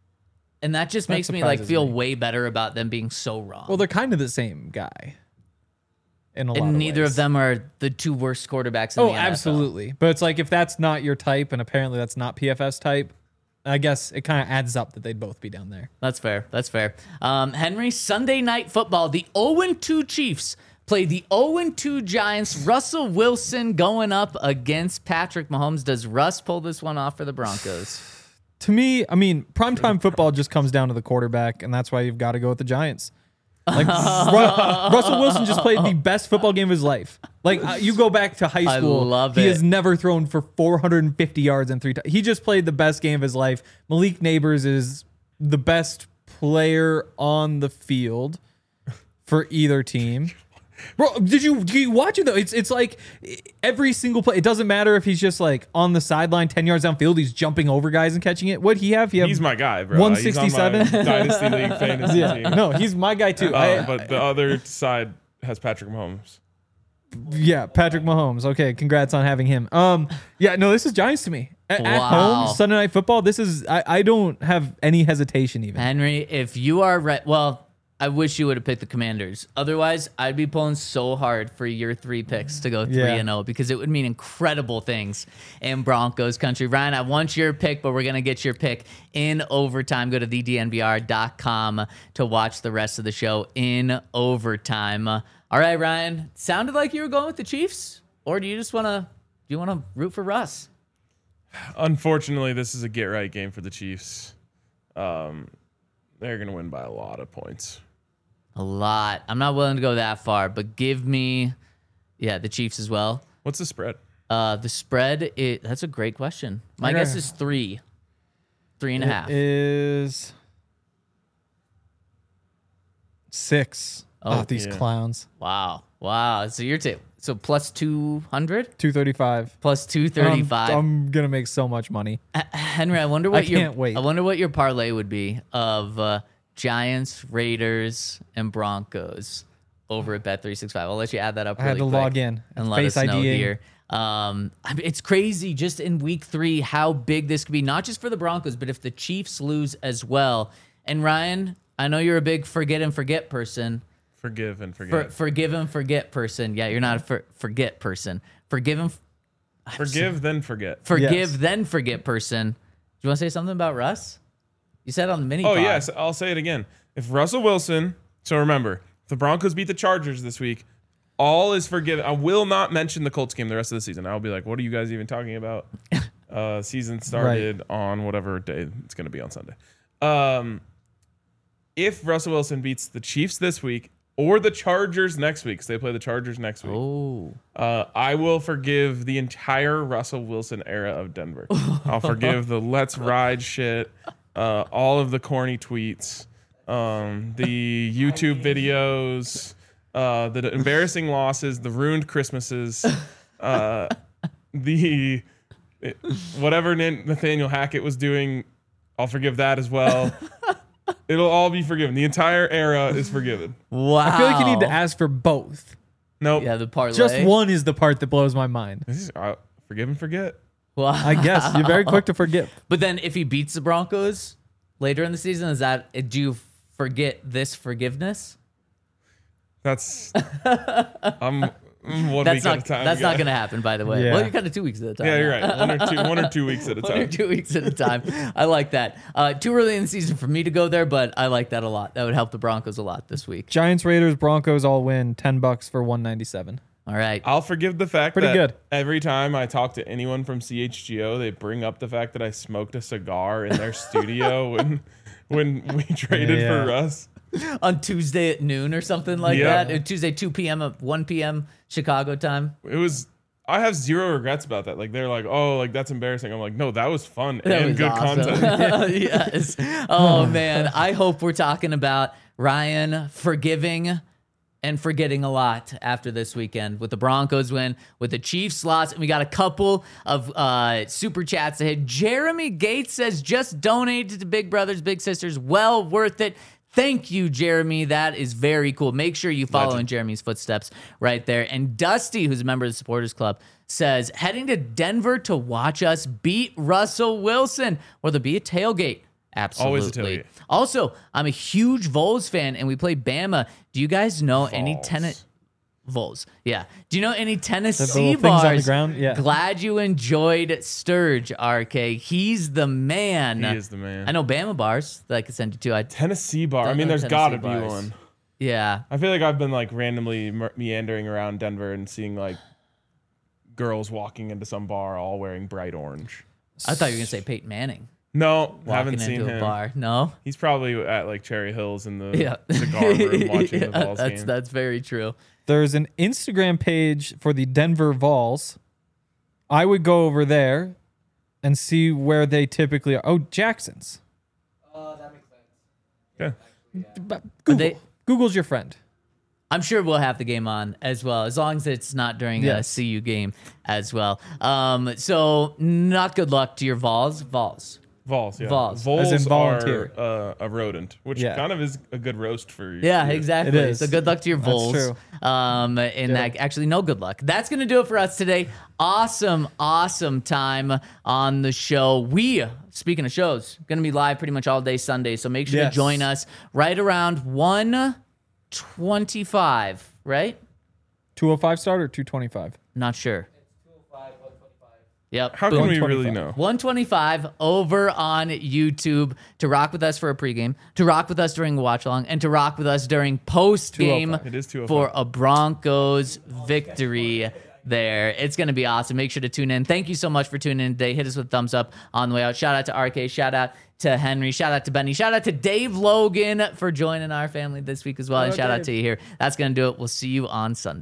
And that just That makes me like surprises feel me. way better about them being so wrong. Well, they're kind of the same guy. In a lot and of neither ways. of them are the two worst quarterbacks in Oh, the N F L. absolutely. But it's like if that's not your type, and apparently that's not P F F's type, I guess it kind of adds up that they'd both be down there. That's fair. That's fair. Um, Henry, Sunday night football. The oh and two Chiefs play the oh and two Giants. Russell Wilson going up against Patrick Mahomes. Does Russ pull this one off for the Broncos? To me, I mean, primetime football just comes down to the quarterback, and that's why you've got to go with the Giants. Like Ru- Russell Wilson just played the best football game of his life. Like uh, you go back to high I school, love he it. has never thrown for four hundred fifty yards and three. T- he just played the best game of his life. Malik Neighbors is the best player on the field for either team. Bro, did you did you watch it though? It's it's like every single play. It doesn't matter if he's just like on the sideline, ten yards downfield. He's jumping over guys and catching it. What he have? He have He's my guy, bro. one He's on my sixty-seven? Dynasty League fantasy yeah. team. No, he's my guy too. Uh, I- but the other side has Patrick Mahomes. Yeah, Patrick Mahomes. Okay, congrats on having him. Um, yeah, no, this is Giants to me. A- At Wow. home, Sunday Night Football. This is I, I don't have any hesitation even. Henry, if you are right, well, I wish you would have picked the Commanders. Otherwise, I'd be pulling so hard for your three picks to go three Yeah. and zero because it would mean incredible things in Broncos country. Ryan, I want your pick, but we're gonna get your pick in overtime. Go to the D N V R dot com to watch the rest of the show in overtime. Uh, all right, Ryan. Sounded like you were going with the Chiefs, or do you just wanna do you wanna root for Russ? Unfortunately, this is a get right game for the Chiefs. Um, they're gonna win by a lot of points. A lot. I'm not willing to go that far, but give me, yeah, the Chiefs as well. What's the spread? Uh, the spread, it, that's a great question. My Okay. guess is three. Three and a half. It is six. Oh, Oh, these yeah. clowns. Wow. Wow. So you're ta- So plus two hundred? two thirty-five. Plus two thirty-five. I'm, I'm gonna make so much money. Henry, I wonder what I your can't wait. I wonder what your parlay would be of uh, Giants, Raiders, and Broncos over at Bet three sixty-five. I'll let you add that up. I had really to quick log in. and let Face us know IDing. here. Um, I mean, it's crazy just in week three how big this could be, not just for the Broncos, but if the Chiefs lose as well. And Ryan, I know you're a big forget and forget person. Forgive and For, forget. forgive and forget person. Yeah, you're not a for, forget person. Forgive and Forgive, then forget. forgive, Yes. then forget person. Do you want to say something about Russ? You said on the mini. Oh, pod. yes. I'll say it again. If Russell Wilson, so remember, if the Broncos beat the Chargers this week, all is forgiven. I will not mention the Colts game the rest of the season. I'll be like, what are you guys even talking about? Uh, season started on whatever day it's going to be on Sunday. Um, if Russell Wilson beats the Chiefs this week or the Chargers next week, because they play the Chargers next week, Oh. uh, I will forgive the entire Russell Wilson era of Denver. I'll forgive the let's ride shit, uh, all of the corny tweets, um, the YouTube videos, uh, the embarrassing losses, the ruined Christmases, uh, the it, whatever Nathaniel Hackett was doing. I'll forgive that as well. It'll all be forgiven. The entire era is forgiven. Wow. I feel like you need to ask for both. Nope. Yeah, the parlay. Just one is the part that blows my mind. This is, uh, forgive and forget. Wow. I guess you're very quick to forget. But then if he beats the Broncos later in the season, is that do you forget this forgiveness? That's I'm one That's week not at a time. that's guy. not going to happen, by the way. Yeah. Well, you're kind of two weeks at a time. Yeah, you're now. right. One or two, one or two weeks at a One or time. two weeks at a time. I like that. Uh, too early in the season for me to go there, but I like that a lot. That would help the Broncos a lot this week. Giants, Raiders, Broncos all win ten bucks for one ninety-seven. All right. I'll forgive the fact Pretty that good. every time I talk to anyone from C H G O, they bring up the fact that I smoked a cigar in their studio when when we traded Yeah. for Russ. On Tuesday at noon or something like Yeah. that. Uh, Tuesday two p.m. at one p.m. Chicago time. It was. I have zero regrets about that. Like they're like, oh, like that's embarrassing. I'm like, no, that was fun That and was good awesome. content. Yes. Oh man, I hope we're talking about Ryan forgiving and forgetting a lot after this weekend with the Broncos win, with the Chiefs loss, and we got a couple of uh, super chats ahead. Jeremy Gates says, just donated to Big Brothers Big Sisters. Well worth it. Thank you, Jeremy. That is very cool. Make sure you follow Legend. in Jeremy's footsteps right there. And Dusty, who's a member of the Supporters Club, says, heading to Denver to watch us beat Russell Wilson. Or there'll be a tailgate. Absolutely. Always a tailgate. Also, I'm a huge Vols fan, and we play Bama. Do you guys know any Vols. tenant Vols? Yeah. Do you know any The Tennessee little things on the bars? ground? Yeah. Glad you enjoyed Sturge, R K. He's the man. He is the man. I know Bama bars that I could send you to. I Tennessee bar. I Don't mean, know there's Tennessee got to be bars. one. yeah. I feel like I've been like randomly me- meandering around Denver and seeing like girls walking into some bar all wearing bright orange. I thought you were gonna say Peyton Manning No, walking haven't into seen a him. bar. No. He's probably at like Cherry Hills in the Yeah. cigar room watching Yeah, the Vols that's game. that's very true. There's an Instagram page for the Denver Vols. I would go over there and see where they typically are. Oh, Jackson's. Yeah. But Google. they- Google's your friend. I'm sure we'll have the game on as well, as long as it's not during a Yes. C U game as well. Um, so not good luck to your Vols. Vols. Vols, yeah. Vols. Vols As in volunteer. are uh, a rodent, which Yeah. kind of is a good roast for you. Yeah, exactly. It is. So good luck to your That's Vols. true. Um, and that, actually, no good luck. That's going to do it for us today. Awesome, awesome time on the show. We, speaking of shows, going to be live pretty much all day Sunday. So make sure Yes. to join us right around one twenty-five, right? two oh five start or two twenty-five? Not sure. Yep. How Boom. can we one really twenty-five. know? one twenty-five over on YouTube to rock with us for a pregame, to rock with us during a watch along, and to rock with us during post game It is two oh five. for a Broncos victory there. It's going to be awesome. Make sure to tune in. Thank you so much for tuning in today. Hit us with a thumbs up on the way out. Shout out to R K. Shout out to Henry. Shout out to Benny. Shout out to Dave Logan for joining our family this week as well. And shout out to you here. That's going to do it. We'll see you on Sunday.